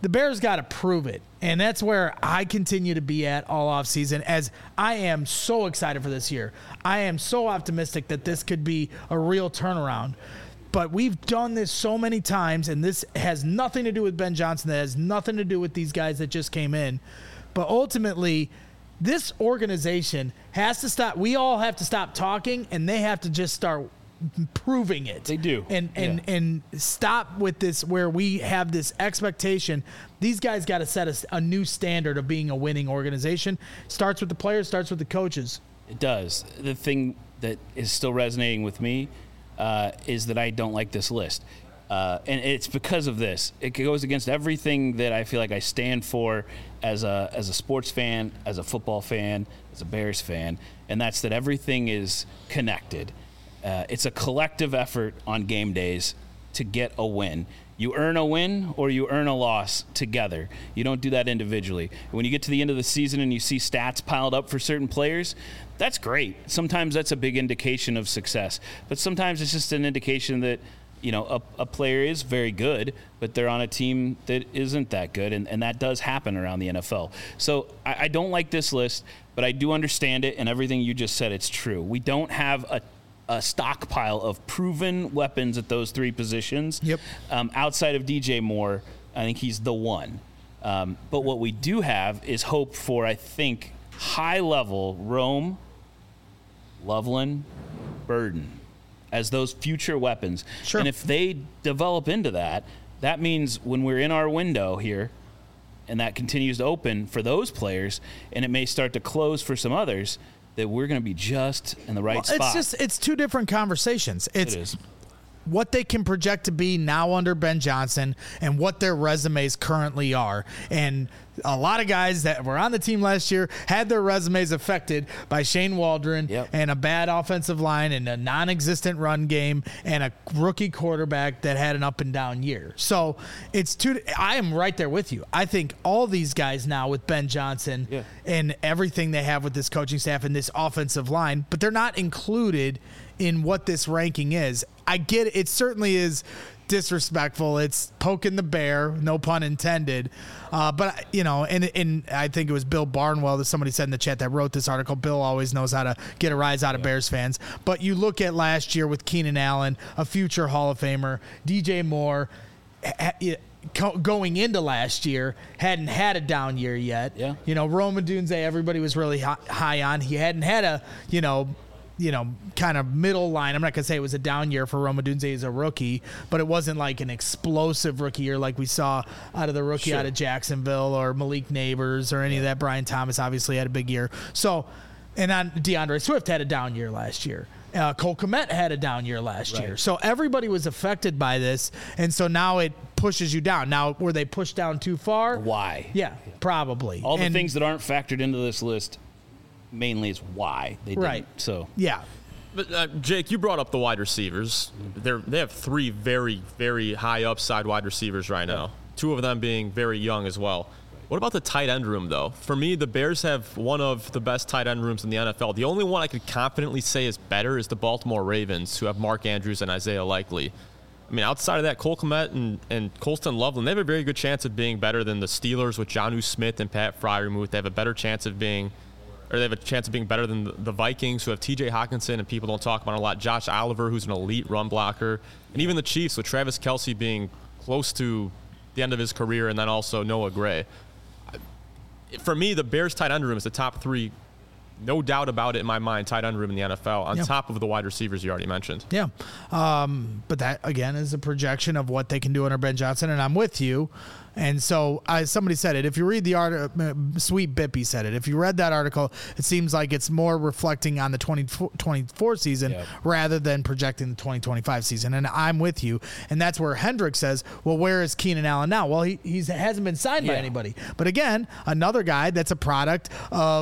the Bears got to prove it. And that's where I continue to be at all offseason, as I am so excited for this year. I am so optimistic that this could be a real turnaround. But we've done this so many times, and this has nothing to do with Ben Johnson. That has nothing to do with these guys that just came in. But ultimately, this organization has to stop. We all have to stop talking, and they have to just start proving it. They do. And stop with this where we have this expectation. These guys got to set a new standard of being a winning organization. Starts with the players, starts with the coaches. It does. The thing that is still resonating with me is that I don't like this list. And it's because of this. It goes against everything that I feel like I stand for as a sports fan, as a football fan, as a Bears fan, and that's that everything is connected. It's a collective effort on game days to get a win. You earn a win or you earn a loss together. You don't do that individually. When you get to the end of the season and you see stats piled up for certain players, that's great. Sometimes that's a big indication of success. But sometimes it's just an indication that, you know, a player is very good, but they're on a team that isn't that good, and that does happen around the NFL. So I don't like this list, but I do understand it, and everything you just said, it's true. We don't have a stockpile of proven weapons at those three positions. Yep. Outside of DJ Moore, I think he's the one. But what we do have is hope for, I think, high-level Rome, Loveland, Burden as those future weapons. Sure. And if they develop into that, that means when we're in our window here and that continues to open for those players and it may start to close for some others, that we're going to be just in the right spot. It's two different conversations. It is. What they can project to be now under Ben Johnson and what their resumes currently are. And a lot of guys that were on the team last year had their resumes affected by Shane Waldron and a bad offensive line and a non-existent run game and a rookie quarterback that had an up and down year. So I am right there with you. I think all these guys now with Ben Johnson and everything they have with this coaching staff and this offensive line, but they're not included in what this ranking is. I get it. It certainly is disrespectful. It's poking the bear, no pun intended. But, you know, and I think it was Bill Barnwell that somebody said in the chat that wrote this article. Bill always knows how to get a rise out of Bears fans. But you look at last year with Keenan Allen, a future Hall of Famer, DJ Moore, going into last year, hadn't had a down year yet. Yeah. You know, Rome Odunze, everybody was really high on. He hadn't had a, kind of middle line. I'm not going to say it was a down year for Rome Odunze as a rookie, but it wasn't like an explosive rookie year like we saw out of the rookie out of Jacksonville or Malik Neighbors or any of that. Brian Thomas obviously had a big year. So, and on DeAndre Swift had a down year last year. Cole Kmet had a down year last year. So everybody was affected by this, and so now it pushes you down. Now, were they pushed down too far? Why? Yeah, probably. All the things that aren't factored into this list mainly is why they didn't. Right. So yeah. But Jake, you brought up the wide receivers. They have three very, very high upside wide receivers right now. Two of them being very young as well. What about the tight end room, though? For me, the Bears have one of the best tight end rooms in the NFL. The only one I could confidently say is better is the Baltimore Ravens, who have Mark Andrews and Isaiah Likely. I mean, outside of that, Cole Kmet and Colston Loveland, they have a very good chance of being better than the Steelers with Jonnu Smith and Pat Freiermuth. They have a better chance of being better than the Vikings, who have T.J. Hockenson, and people don't talk about it a lot, Josh Oliver, who's an elite run blocker, and even the Chiefs with Travis Kelce being close to the end of his career, and then also Noah Gray. For me, the Bears tight end room is the top three, no doubt about it in my mind, tight end room in the NFL, on top of the wide receivers you already mentioned. Yeah. But that, again, is a projection of what they can do under Ben Johnson, and I'm with you. And so somebody said it. If you read the article, Sweet Bippy said it. If you read that article, it seems like it's more reflecting on the 2024 season rather than projecting the 2025 season. And I'm with you. And that's where Hendrick says, well, where is Keenan Allen now? Well, he hasn't been signed by anybody. But again, another guy that's a product of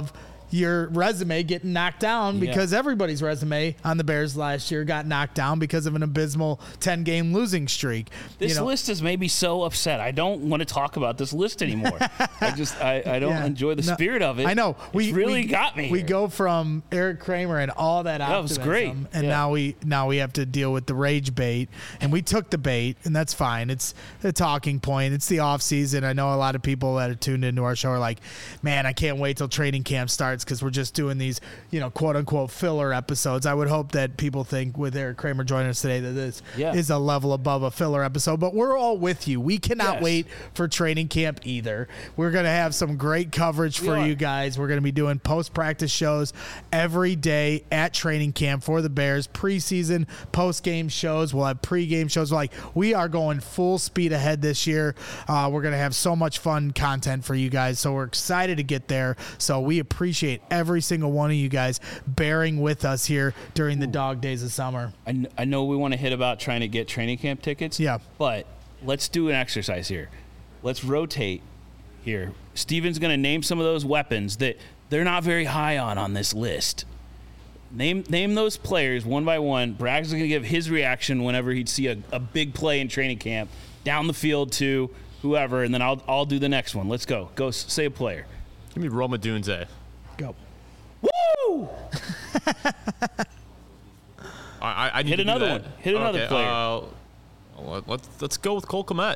your resume getting knocked down because everybody's resume on the Bears last year got knocked down because of an abysmal 10-game losing streak. This list has made me so upset. I don't want to talk about this list anymore. I don't enjoy the spirit of it. I know. It's really got me. We go from Eric Kramer and all that optimism, was great. And now we have to deal with the rage bait, and we took the bait, and that's fine. It's the talking point. It's the off season. I know a lot of people that are tuned into our show are like, man, I can't wait till training camp starts because we're just doing these, quote unquote filler episodes. I would hope that people think with Eric Kramer joining us today that this is a level above a filler episode, but we're all with you. We cannot wait for training camp either. We're going to have some great coverage for you guys. We're going to be doing post-practice shows every day at training camp for the Bears, preseason, post-game shows. We'll have pre-game shows. We are going full speed ahead this year. We're going to have so much fun content for you guys, so we're excited to get there. So we appreciate every single one of you guys bearing with us here during the dog days of summer. I know we want to hit about trying to get training camp tickets. Yeah. But let's do an exercise here. Let's rotate here. Steven's going to name some of those weapons that they're not very high on this list. Name those players one by one. Bragg's going to give his reaction whenever he'd see a big play in training camp down the field to whoever, and then I'll do the next one. Let's go. Go say a player. Give me Roma Dunze. Go. Woo! I need hit to another do one. that. Hit another player. Let's go with Cole Kmet.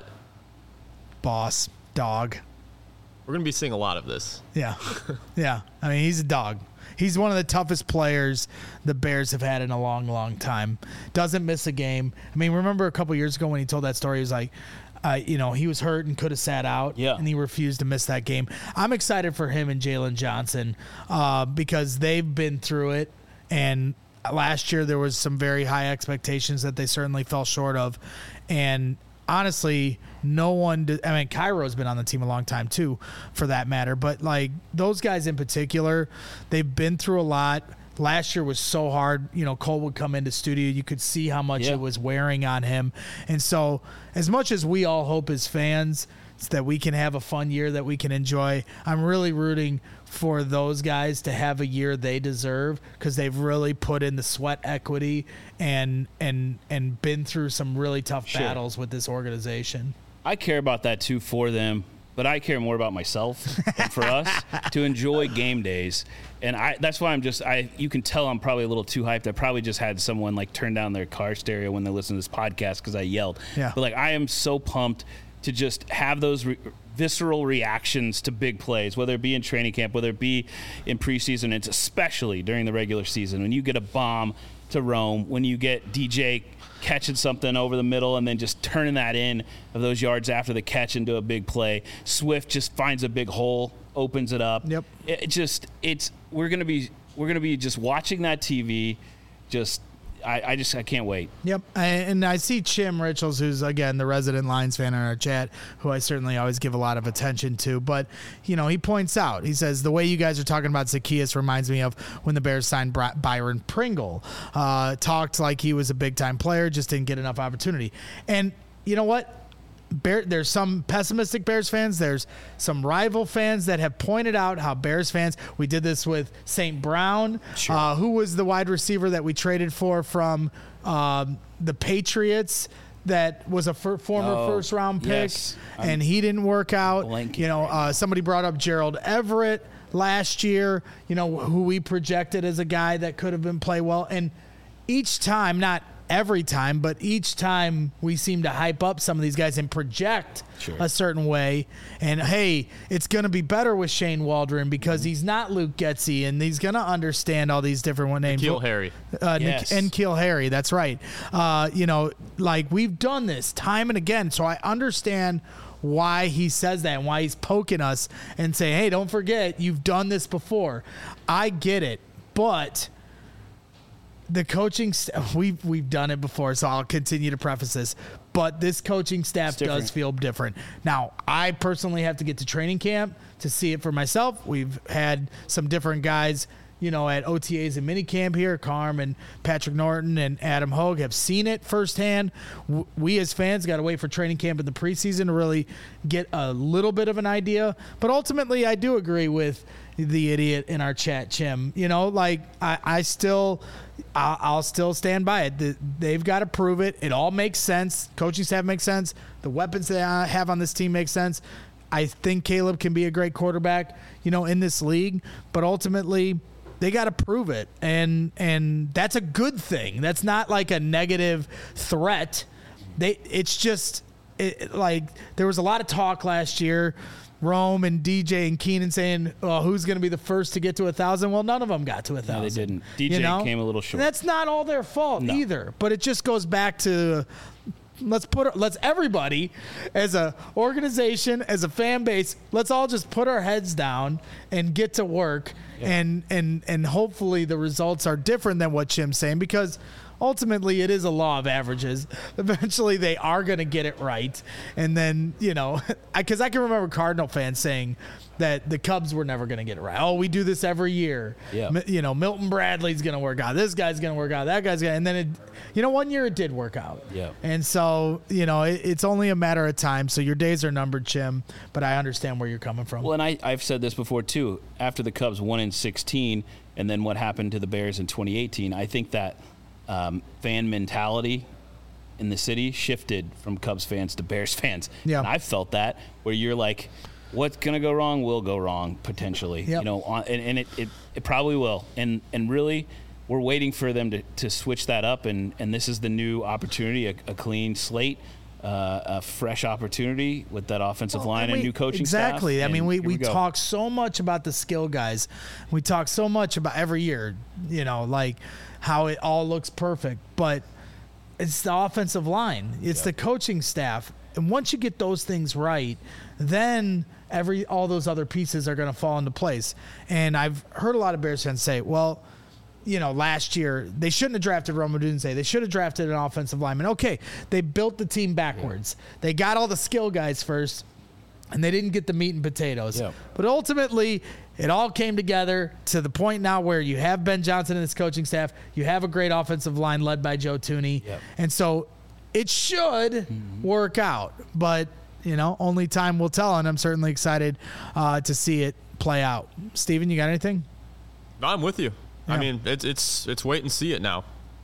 Boss. Dog. We're going to be seeing a lot of this. Yeah. Yeah. I mean, he's a dog. He's one of the toughest players the Bears have had in a long, long time. Doesn't miss a game. I mean, remember a couple years ago when he told that story, he was like, he was hurt and could have sat out, and he refused to miss that game. I'm excited for him and Jalen Johnson because they've been through it, and last year there was some very high expectations that they certainly fell short of, and honestly, no one did. I mean, Cairo's been on the team a long time too, for that matter, but those guys in particular, they've been through a lot. Last year was so hard. Cole would come into studio. You could see how much it was wearing on him. And so as much as we all hope as fans that we can have a fun year that we can enjoy, I'm really rooting for those guys to have a year they deserve because they've really put in the sweat equity and been through some really tough battles with this organization. I care about that too for them, but I care more about myself and for us to enjoy game days. And that's why you can tell I'm probably a little too hyped. I probably just had someone turn down their car stereo when they listen to this podcast because I yelled. Yeah. But I am so pumped to just have those visceral reactions to big plays, whether it be in training camp, whether it be in preseason. It's especially during the regular season when you get a bomb to Rome, when you get DJ catching something over the middle and then just turning that in of those yards after the catch into a big play. Swift just finds a big hole, opens it up. Yep. We're gonna be just watching that TV. I can't wait. Yep. And I see Chim Richards, who's, again, the resident Lions fan in our chat, who I certainly always give a lot of attention to. But, he points out, he says, the way you guys are talking about Zacchaeus reminds me of when the Bears signed Byron Pringle. Talked like he was a big-time player, just didn't get enough opportunity. And you know what? There's some pessimistic Bears fans. There's some rival fans that have pointed out how Bears fans, we did this with St. Brown, who was the wide receiver that we traded for from the Patriots that was a former first-round pick, and he didn't work out. Somebody brought up Gerald Everett last year, who we projected as a guy that could have been play well. And each time, not every time, but each time we seem to hype up some of these guys and project a certain way. And hey, it's going to be better with Shane Waldron because he's not Luke Getsy and he's going to understand all these different names. N'Keal Harry. N'Keal Harry. That's right. We've done this time and again. So I understand why he says that and why he's poking us and saying, hey, don't forget, you've done this before. I get it, but the coaching staff, we've done it before, so I'll continue to preface this. But this coaching staff does feel different. Now, I personally have to get to training camp to see it for myself. We've had some different guys at OTAs and minicamp here. Carm and Patrick Norton and Adam Hogue have seen it firsthand. We as fans got to wait for training camp in the preseason to really get a little bit of an idea. But ultimately, I do agree with the idiot in our chat, Chim. I'll still stand by it. They've got to prove it. It all makes sense. Coaching staff makes sense. The weapons they have on this team make sense. I think Caleb can be a great quarterback, in this league. But ultimately, they got to prove it, and that's a good thing. That's not like a negative threat. It's just there was a lot of talk last year. Rome and DJ and Keenan saying, "Oh, who's going to be the first to get to 1,000?" Well, none of them got to 1,000. No, they didn't. DJ came a little short. That's not all their fault either. But it just goes back to let's everybody as a organization, as a fan base, let's all just put our heads down and get to work. Yeah. And hopefully the results are different than what Jim's saying, because ultimately it is a law of averages. Eventually they are going to get it right. And then, because I can remember Cardinal fans saying that the Cubs were never going to get it right. Oh, we do this every year. Yeah. Milton Bradley's going to work out. This guy's going to work out. That guy's going to. And then, one year it did work out. Yeah. And so, it's only a matter of time. So your days are numbered, Jim, but I understand where you're coming from. Well, and I've said this before, too. After the Cubs won in 2016 and then what happened to the Bears in 2018, I think that fan mentality in the city shifted from Cubs fans to Bears fans. Yeah. And I've felt that, where you're like, what's going to go wrong will go wrong potentially. Yep. And it probably will. And really, we're waiting for them to switch that up. And this is the new opportunity, a clean slate, a fresh opportunity with that offensive line and new coaching staff. Exactly. I mean, we talk so much about the skill guys. We talk so much about every year, how it all looks perfect. But it's the offensive line. It's the coaching staff. And once you get those things right, then all those other pieces are going to fall into place. And I've heard a lot of Bears fans say, well, last year they shouldn't have drafted Rome Odunze. They should have drafted an offensive lineman. Okay, they built the team backwards. Yeah. They got all the skill guys first, and they didn't get the meat and potatoes. Yeah. But ultimately, it all came together to the point now where you have Ben Johnson and his coaching staff. You have a great offensive line led by Joe Thuney. Yep. And so it should work out. But, only time will tell, and I'm certainly excited to see it play out. Steven, you got anything? No, I'm with you. Yeah. I mean, it's wait and see it now.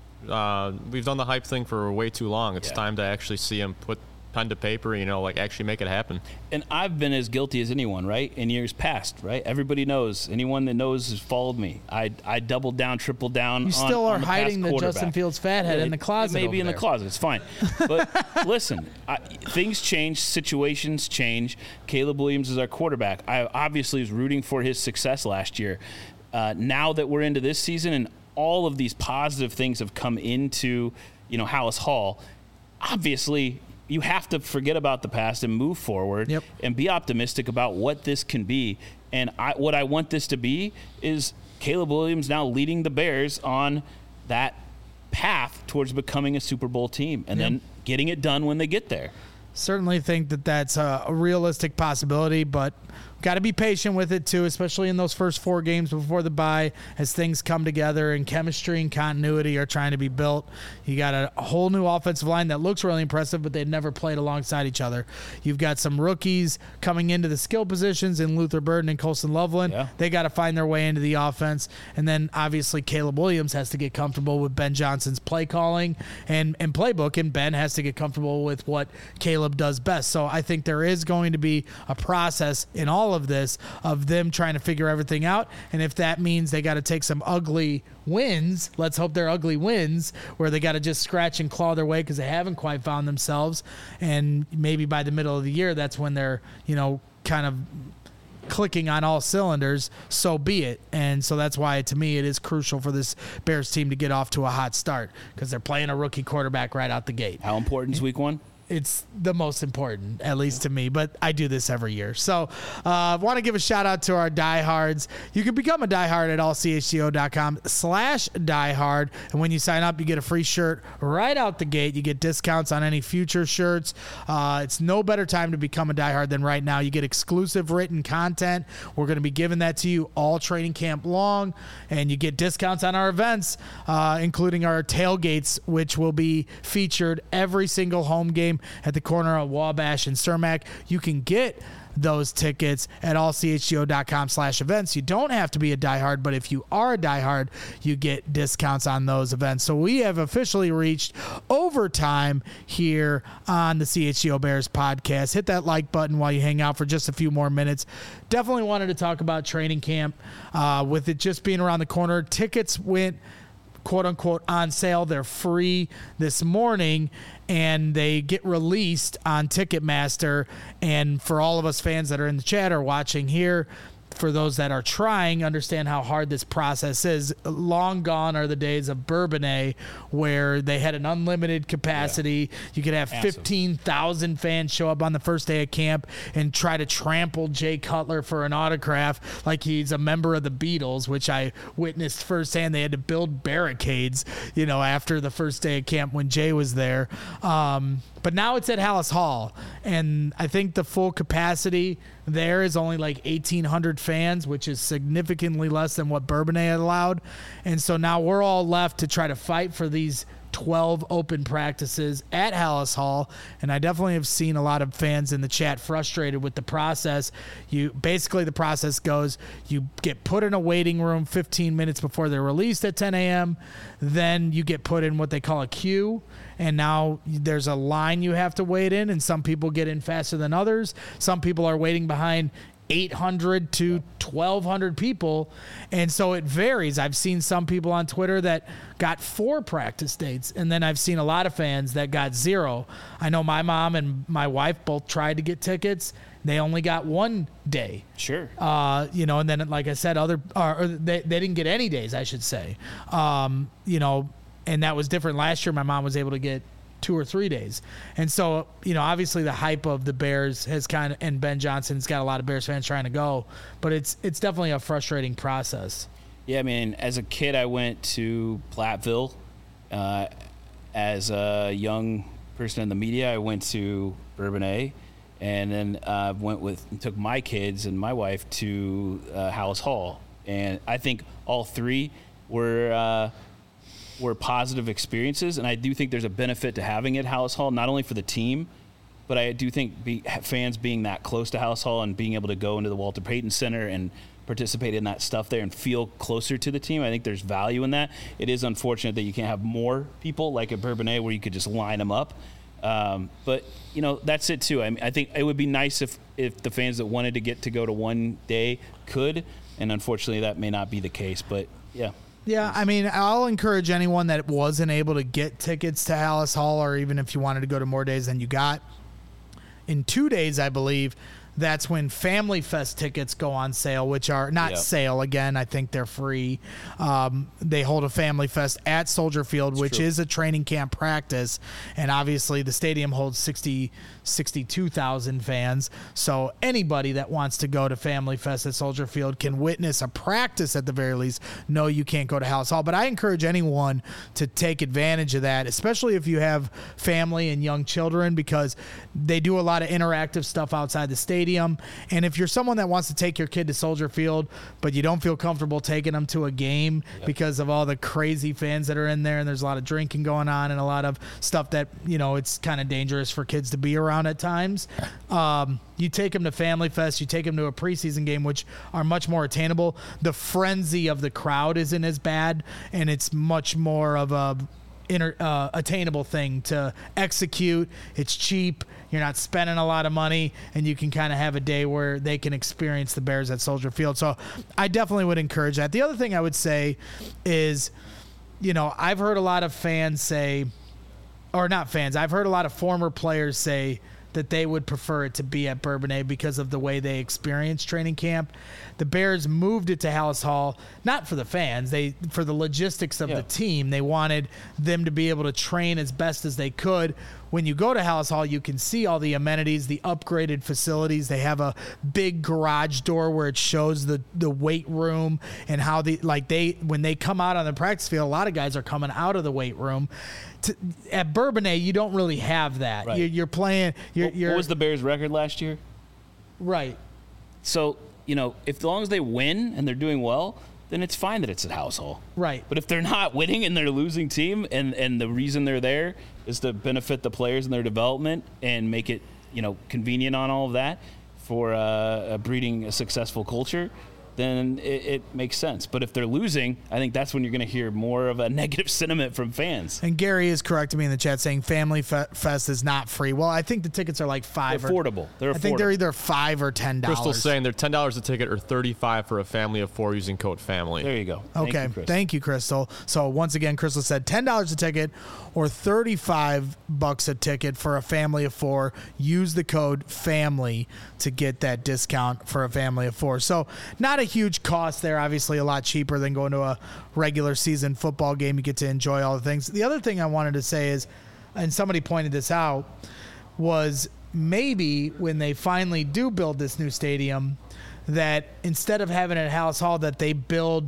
We've done the hype thing for way too long. It's time to actually see him put pen to paper, actually make it happen. And I've been as guilty as anyone, right, in years past, right? Everybody knows. Anyone that knows has followed me. I doubled down, tripled down. You still are hiding the Justin Fields fathead in the closet. Maybe in the closet. It's fine. But listen, things change. Situations change. Caleb Williams is our quarterback. I obviously was rooting for his success last year. Now that we're into this season and all of these positive things have come into, Halas Hall, obviously you have to forget about the past and move forward and be optimistic about what this can be. And what I want this to be is Caleb Williams now leading the Bears on that path towards becoming a Super Bowl team and then getting it done when they get there. Certainly think that that's a realistic possibility, but got to be patient with it too, especially in those first 4 games before the bye as things come together and chemistry and continuity are trying to be built. You got a whole new offensive line that looks really impressive, but they've never played alongside each other. You've got some rookies coming into the skill positions in Luther Burden and Colson Loveland. Yeah. They got to find their way into the offense. And then obviously Caleb Williams has to get comfortable with Ben Johnson's play calling and playbook, and Ben has to get comfortable with what Caleb does best. So I think there is going to be a process in all of this of them trying to figure everything out. And if that means they got to take some ugly wins, let's hope they're ugly wins where they got to just scratch and claw their way because they haven't quite found themselves. And maybe by the middle of the year, that's when they're, kind of clicking on all cylinders, so be it. And so that's why, to me, it is crucial for this Bears team to get off to a hot start because they're playing a rookie quarterback right out the gate. How important is week 1? it's the most important, at least to me, but I do this every year. So I want to give a shout out to our diehards. You can become a diehard at allchgo.com/diehard. And when you sign up, you get a free shirt right out the gate. You get discounts on any future shirts. It's no better time to become a diehard than right now. You get exclusive written content. We're going to be giving that to you all training camp long, and you get discounts on our events, including our tailgates, which will be featured every single home game at the corner of Wabash and Cermak. You can get those tickets at allchgo.com/events. You don't have to be a diehard, but if you are a diehard, you get discounts on those events. So we have officially reached overtime here on the CHGO Bears podcast. Hit that like button while you hang out for just a few more minutes. Definitely wanted to talk about training camp with it just being around the corner. Tickets went quote unquote on sale. They're free this morning, and they get released on Ticketmaster. And for all of us fans that are in the chat or watching here, for those that are trying, understand how hard this process is. Long gone are the days of Bourbonnais where they had an unlimited capacity. Yeah. You could have 15,000 fans show up on the first day of camp and try to trample Jay Cutler for an autograph like he's a member of the Beatles, which I witnessed firsthand. They had to build barricades, after the first day of camp when Jay was there. But now it's at Hallis Hall, and I think the full capacity there is only like 1,800 fans, which is significantly less than what Bourbonnais had allowed. And so now we're all left to try to fight for these 12 open practices at Hallis Hall, and I definitely have seen a lot of fans in the chat frustrated with the process. The process goes, you get put in a waiting room 15 minutes before they're released at 10 a.m., then you get put in what they call a queue, and now there's a line you have to wait in, and some people get in faster than others. Some people are waiting behind 800 to 1,200 people, and so it varies. I've seen some people on Twitter that got 4 practice dates, and then I've seen a lot of fans that got 0. I know my mom and my wife both tried to get tickets. They only got 1 day. Sure. And then, like I said, they didn't get any days, I should say. And that was different. Last year, my mom was able to get 2 or 3 days. And so, obviously the hype of the Bears has and Ben Johnson's got a lot of Bears fans trying to go, but it's definitely a frustrating process. Yeah, I mean, as a kid, I went to Platteville. As a young person in the media, I went to Bourbonnais, and then took my kids and my wife to Hallis Hall. And I think all 3 were positive experiences, and I do think there's a benefit to having it at Hallis Hall, not only for the team, but I do think fans being that close to Hallis Hall and being able to go into the Walter Payton Center and participate in that stuff there and feel closer to the team. I think there's value in that. It is unfortunate that you can't have more people like at Bourbonnais where you could just line them up. But that's it too. I think it would be nice if the fans that wanted to get to go to one day could, and unfortunately that may not be the case, but yeah. Yeah, I mean, I'll encourage anyone that wasn't able to get tickets to Hallis Hall, or even if you wanted to go to more days than you got. In 2 days, I believe, that's when Family Fest tickets go on sale, which are not sale again. I think they're free. They hold a Family Fest at Soldier Field, which is a training camp practice. And obviously the stadium holds 62,000 fans. So anybody that wants to go to Family Fest at Soldier Field can witness a practice at the very least. No, you can't go to Hallis Hall. But I encourage anyone to take advantage of that, especially if you have family and young children, because they do a lot of interactive stuff outside the stadium. And if you're someone that wants to take your kid to Soldier Field, but you don't feel comfortable taking them to a game because of all the crazy fans that are in there, and there's a lot of drinking going on and a lot of stuff that, it's kind of dangerous for kids to be around at times. You take them to Family Fest, you take them to a preseason game, which are much more attainable. The frenzy of the crowd isn't as bad, and it's much more of a attainable thing to execute. It's cheap. You're not spending a lot of money, and you can kind of have a day where they can experience the Bears at Soldier Field. So I definitely would encourage that. The other thing I would say is, I've heard a lot of fans say, or not fans, I've heard a lot of former players say that they would prefer it to be at Bourbonnais because of the way they experience training camp. The Bears moved it to Hallis Hall, not for the fans, for the logistics of the team. They wanted them to be able to train as best as they could when you go to Halas Hall, you can see all the amenities, the upgraded facilities. They have a big garage door where it shows the weight room and how when they come out on the practice field, a lot of guys are coming out of the weight room. At Bourbonnais, you don't really have that. Right. You're playing. What was the Bears' record last year? Right. So, as long as they win and they're doing well, then it's fine that it's at Halas Hall. Right. But if they're not winning and they're a losing team and the reason they're there is to benefit the players and their development and make it, convenient on all of that for breeding a successful culture, then it makes sense. But if they're losing, I think that's when you're going to hear more of a negative sentiment from fans. And Gary is correcting me in the chat saying Family Fest is not free. Well, I think the tickets are like $5. Affordable. I think they're either $5 or $10. Crystal's saying they're $10 a ticket or $35 for a family of 4 using code FAMILY. There you go. Okay. Thank you, Crystal. So once again, Crystal said $10 a ticket or $35 a ticket for a family of 4. Use the code FAMILY to get that discount for a family of 4. So not a huge cost there. Obviously a lot cheaper than going to a regular season football game. You get to enjoy all the things. The other thing I wanted to say is, and somebody pointed this out, was maybe when they finally do build this new stadium, that instead of having it at Halas Hall, that they build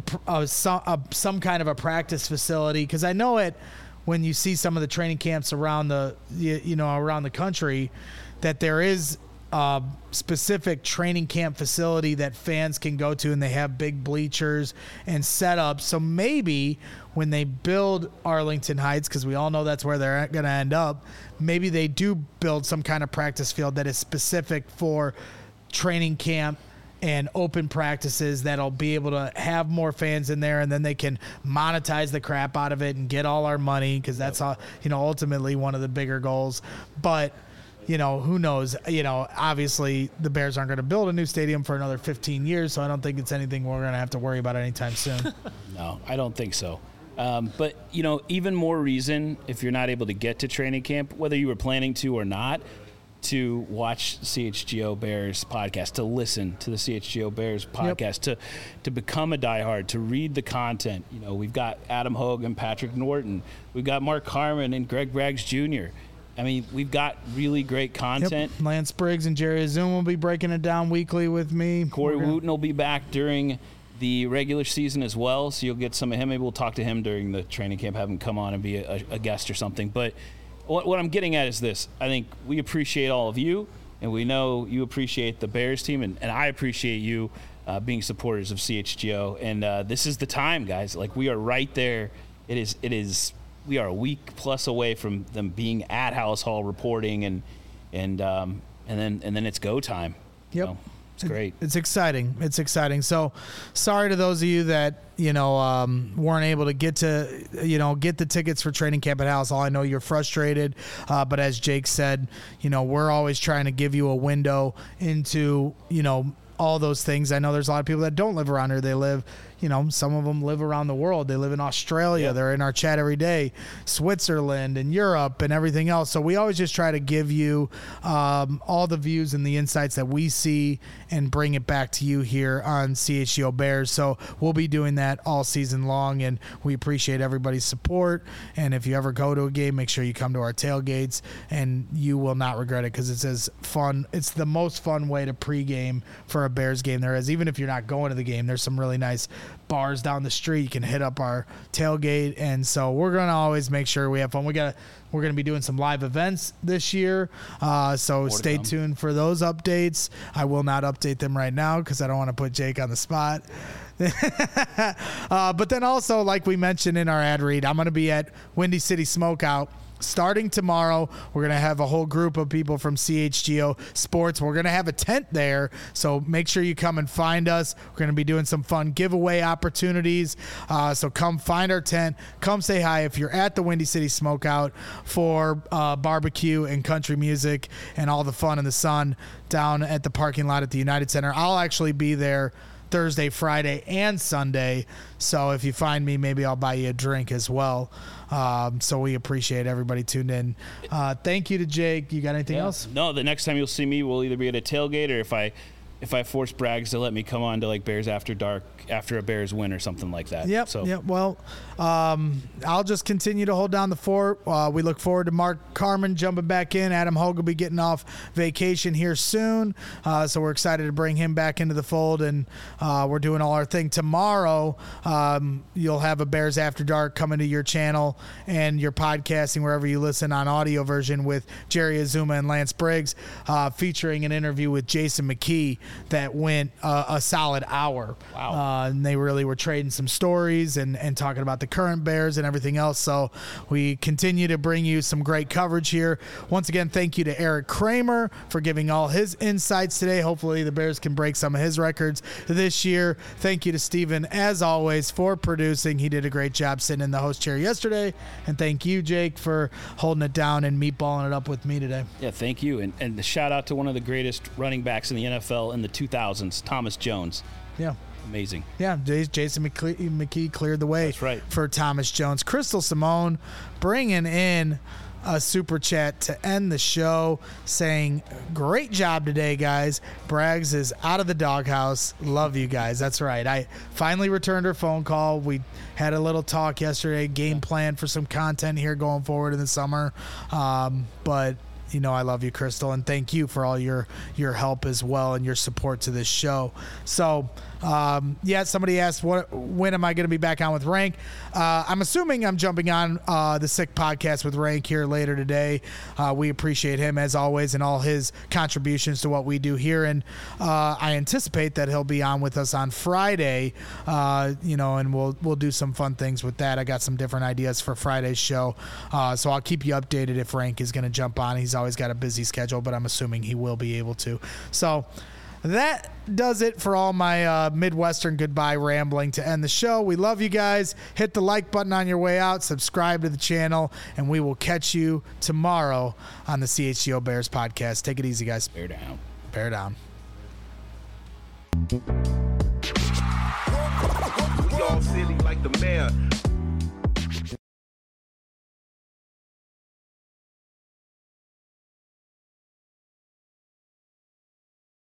some kind of a practice facility. Because I know when you see some of the training camps around around the country, that there is a specific training camp facility that fans can go to, and they have big bleachers and setups. So maybe when they build Arlington Heights, because we all know that's where they're going to end up, maybe they do build some kind of practice field that is specific for training camp and open practices that'll be able to have more fans in there, and then they can monetize the crap out of it and get all our money, because that's ultimately one of the bigger goals. But who knows? Obviously the Bears aren't going to build a new stadium for another 15 years, so I don't think it's anything we're going to have to worry about anytime soon. No, I don't think so. But, even more reason, if you're not able to get to training camp, whether you were planning to or not, to watch CHGO Bears podcast, to listen to the CHGO Bears podcast, to become a diehard, to read the content. We've got Adam Hogue and Patrick Norton. We've got Mark Harmon and Greg Braggs Jr. I mean, we've got really great content. Yep. Lance Briggs and Jerry Azum will be breaking it down weekly with me. Corey Wooten will be back during the regular season as well, so you'll get some of him. Maybe we'll talk to him during the training camp, have him come on and be a guest or something. But what I'm getting at is this. I think we appreciate all of you, and we know you appreciate the Bears team, and I appreciate you being supporters of CHGO. And this is the time, guys. Like, we are right there. It is. We are a week plus away from them being at Halas Hall reporting, and then it's go time. Yep. It's great. It's exciting. It's exciting. So sorry to those of you that, weren't able to get the tickets for training camp at Halas Hall. I know you're frustrated, but as Jake said, we're always trying to give you a window into, all those things. I know there's a lot of people that don't live around here. They live, some of them live around the world. They live in Australia. Yep. They're in our chat every day, Switzerland and Europe and everything else. So we always just try to give you all the views and the insights that we see and bring it back to you here on CHGO Bears. So we'll be doing that all season long, and we appreciate everybody's support. And if you ever go to a game, make sure you come to our tailgates, and you will not regret it, because it's as fun. It's the most fun way to pregame for a Bears game there is. Even if you're not going to the game, there's some really nice bars down the street. You can hit up our tailgate, and so we're going to always make sure we have fun. We're going to be doing some live events this year, so stay tuned for those updates. I will not update them right now because I don't want to put Jake on the spot. But then also, like we mentioned in our ad read, I'm going to be at Windy City Smokeout starting tomorrow. We're going to have a whole group of people from CHGO Sports. We're going to have a tent there, so make sure you come and find us. We're going to be doing some fun giveaway opportunities, so come find our tent. Come say hi if you're at the Windy City Smokeout for barbecue and country music and all the fun in the sun down at the parking lot at the United Center. I'll actually be there Thursday, Friday, and Sunday. So if you find me, maybe I'll buy you a drink as well. So we appreciate everybody tuned in. Thank you to Jake. You got anything else? No, the next time you'll see me, we'll either be at a tailgate, or if I if I force Braggs to let me come on to like Bears After Dark after a Bears win or something like that. Yep. Well, I'll just continue to hold down the fort. We look forward to Mark Carman jumping back in. Adam Hogue will be getting off vacation here soon, so we're excited to bring him back into the fold, and we're doing all our thing tomorrow. You'll have a Bears After Dark coming to your channel and your podcasting wherever you listen on audio version with Jerry Azuma and Lance Briggs, featuring an interview with Jason McKee that went a solid hour. Wow. And they really were trading some stories and talking about the current Bears and everything else. So we continue to bring you some great coverage here. Once again, thank you to Eric Kramer for giving all his insights today. Hopefully the Bears can break some of his records this year. Thank you to Steven, as always, for producing. He did a great job sitting in the host chair yesterday. And thank you, Jake, for holding it down and meatballing it up with me today. Yeah, thank you. And the shout out to one of the greatest running backs in the NFL in the 2000s, Thomas Jones. Yeah. Amazing. Yeah, Jason McKee cleared the way. That's right. For Thomas Jones. Crystal Simone bringing in a super chat to end the show, saying, great job today, guys. Braggs is out of the doghouse. Love you guys. That's right. I finally returned her phone call. We had a little talk yesterday, game plan for some content here going forward in the summer. But you know I love you, Crystal, and thank you for all your help as well and your support to this show. So, somebody asked, when am I going to be back on with Rank? I'm assuming I'm jumping on the Sick Podcast with Rank here later today. We appreciate him, as always, and all his contributions to what we do here. And I anticipate that he'll be on with us on Friday, and we'll do some fun things with that. I got some different ideas for Friday's show. So I'll keep you updated if Rank is going to jump on. He's always got a busy schedule, but I'm assuming he will be able to. So that does it for all my Midwestern goodbye rambling to end the show. We love you guys. Hit the like button on your way out. Subscribe to the channel, and we will catch you tomorrow on the CHGO Bears podcast. Take it easy, guys. Bear down. Bear down.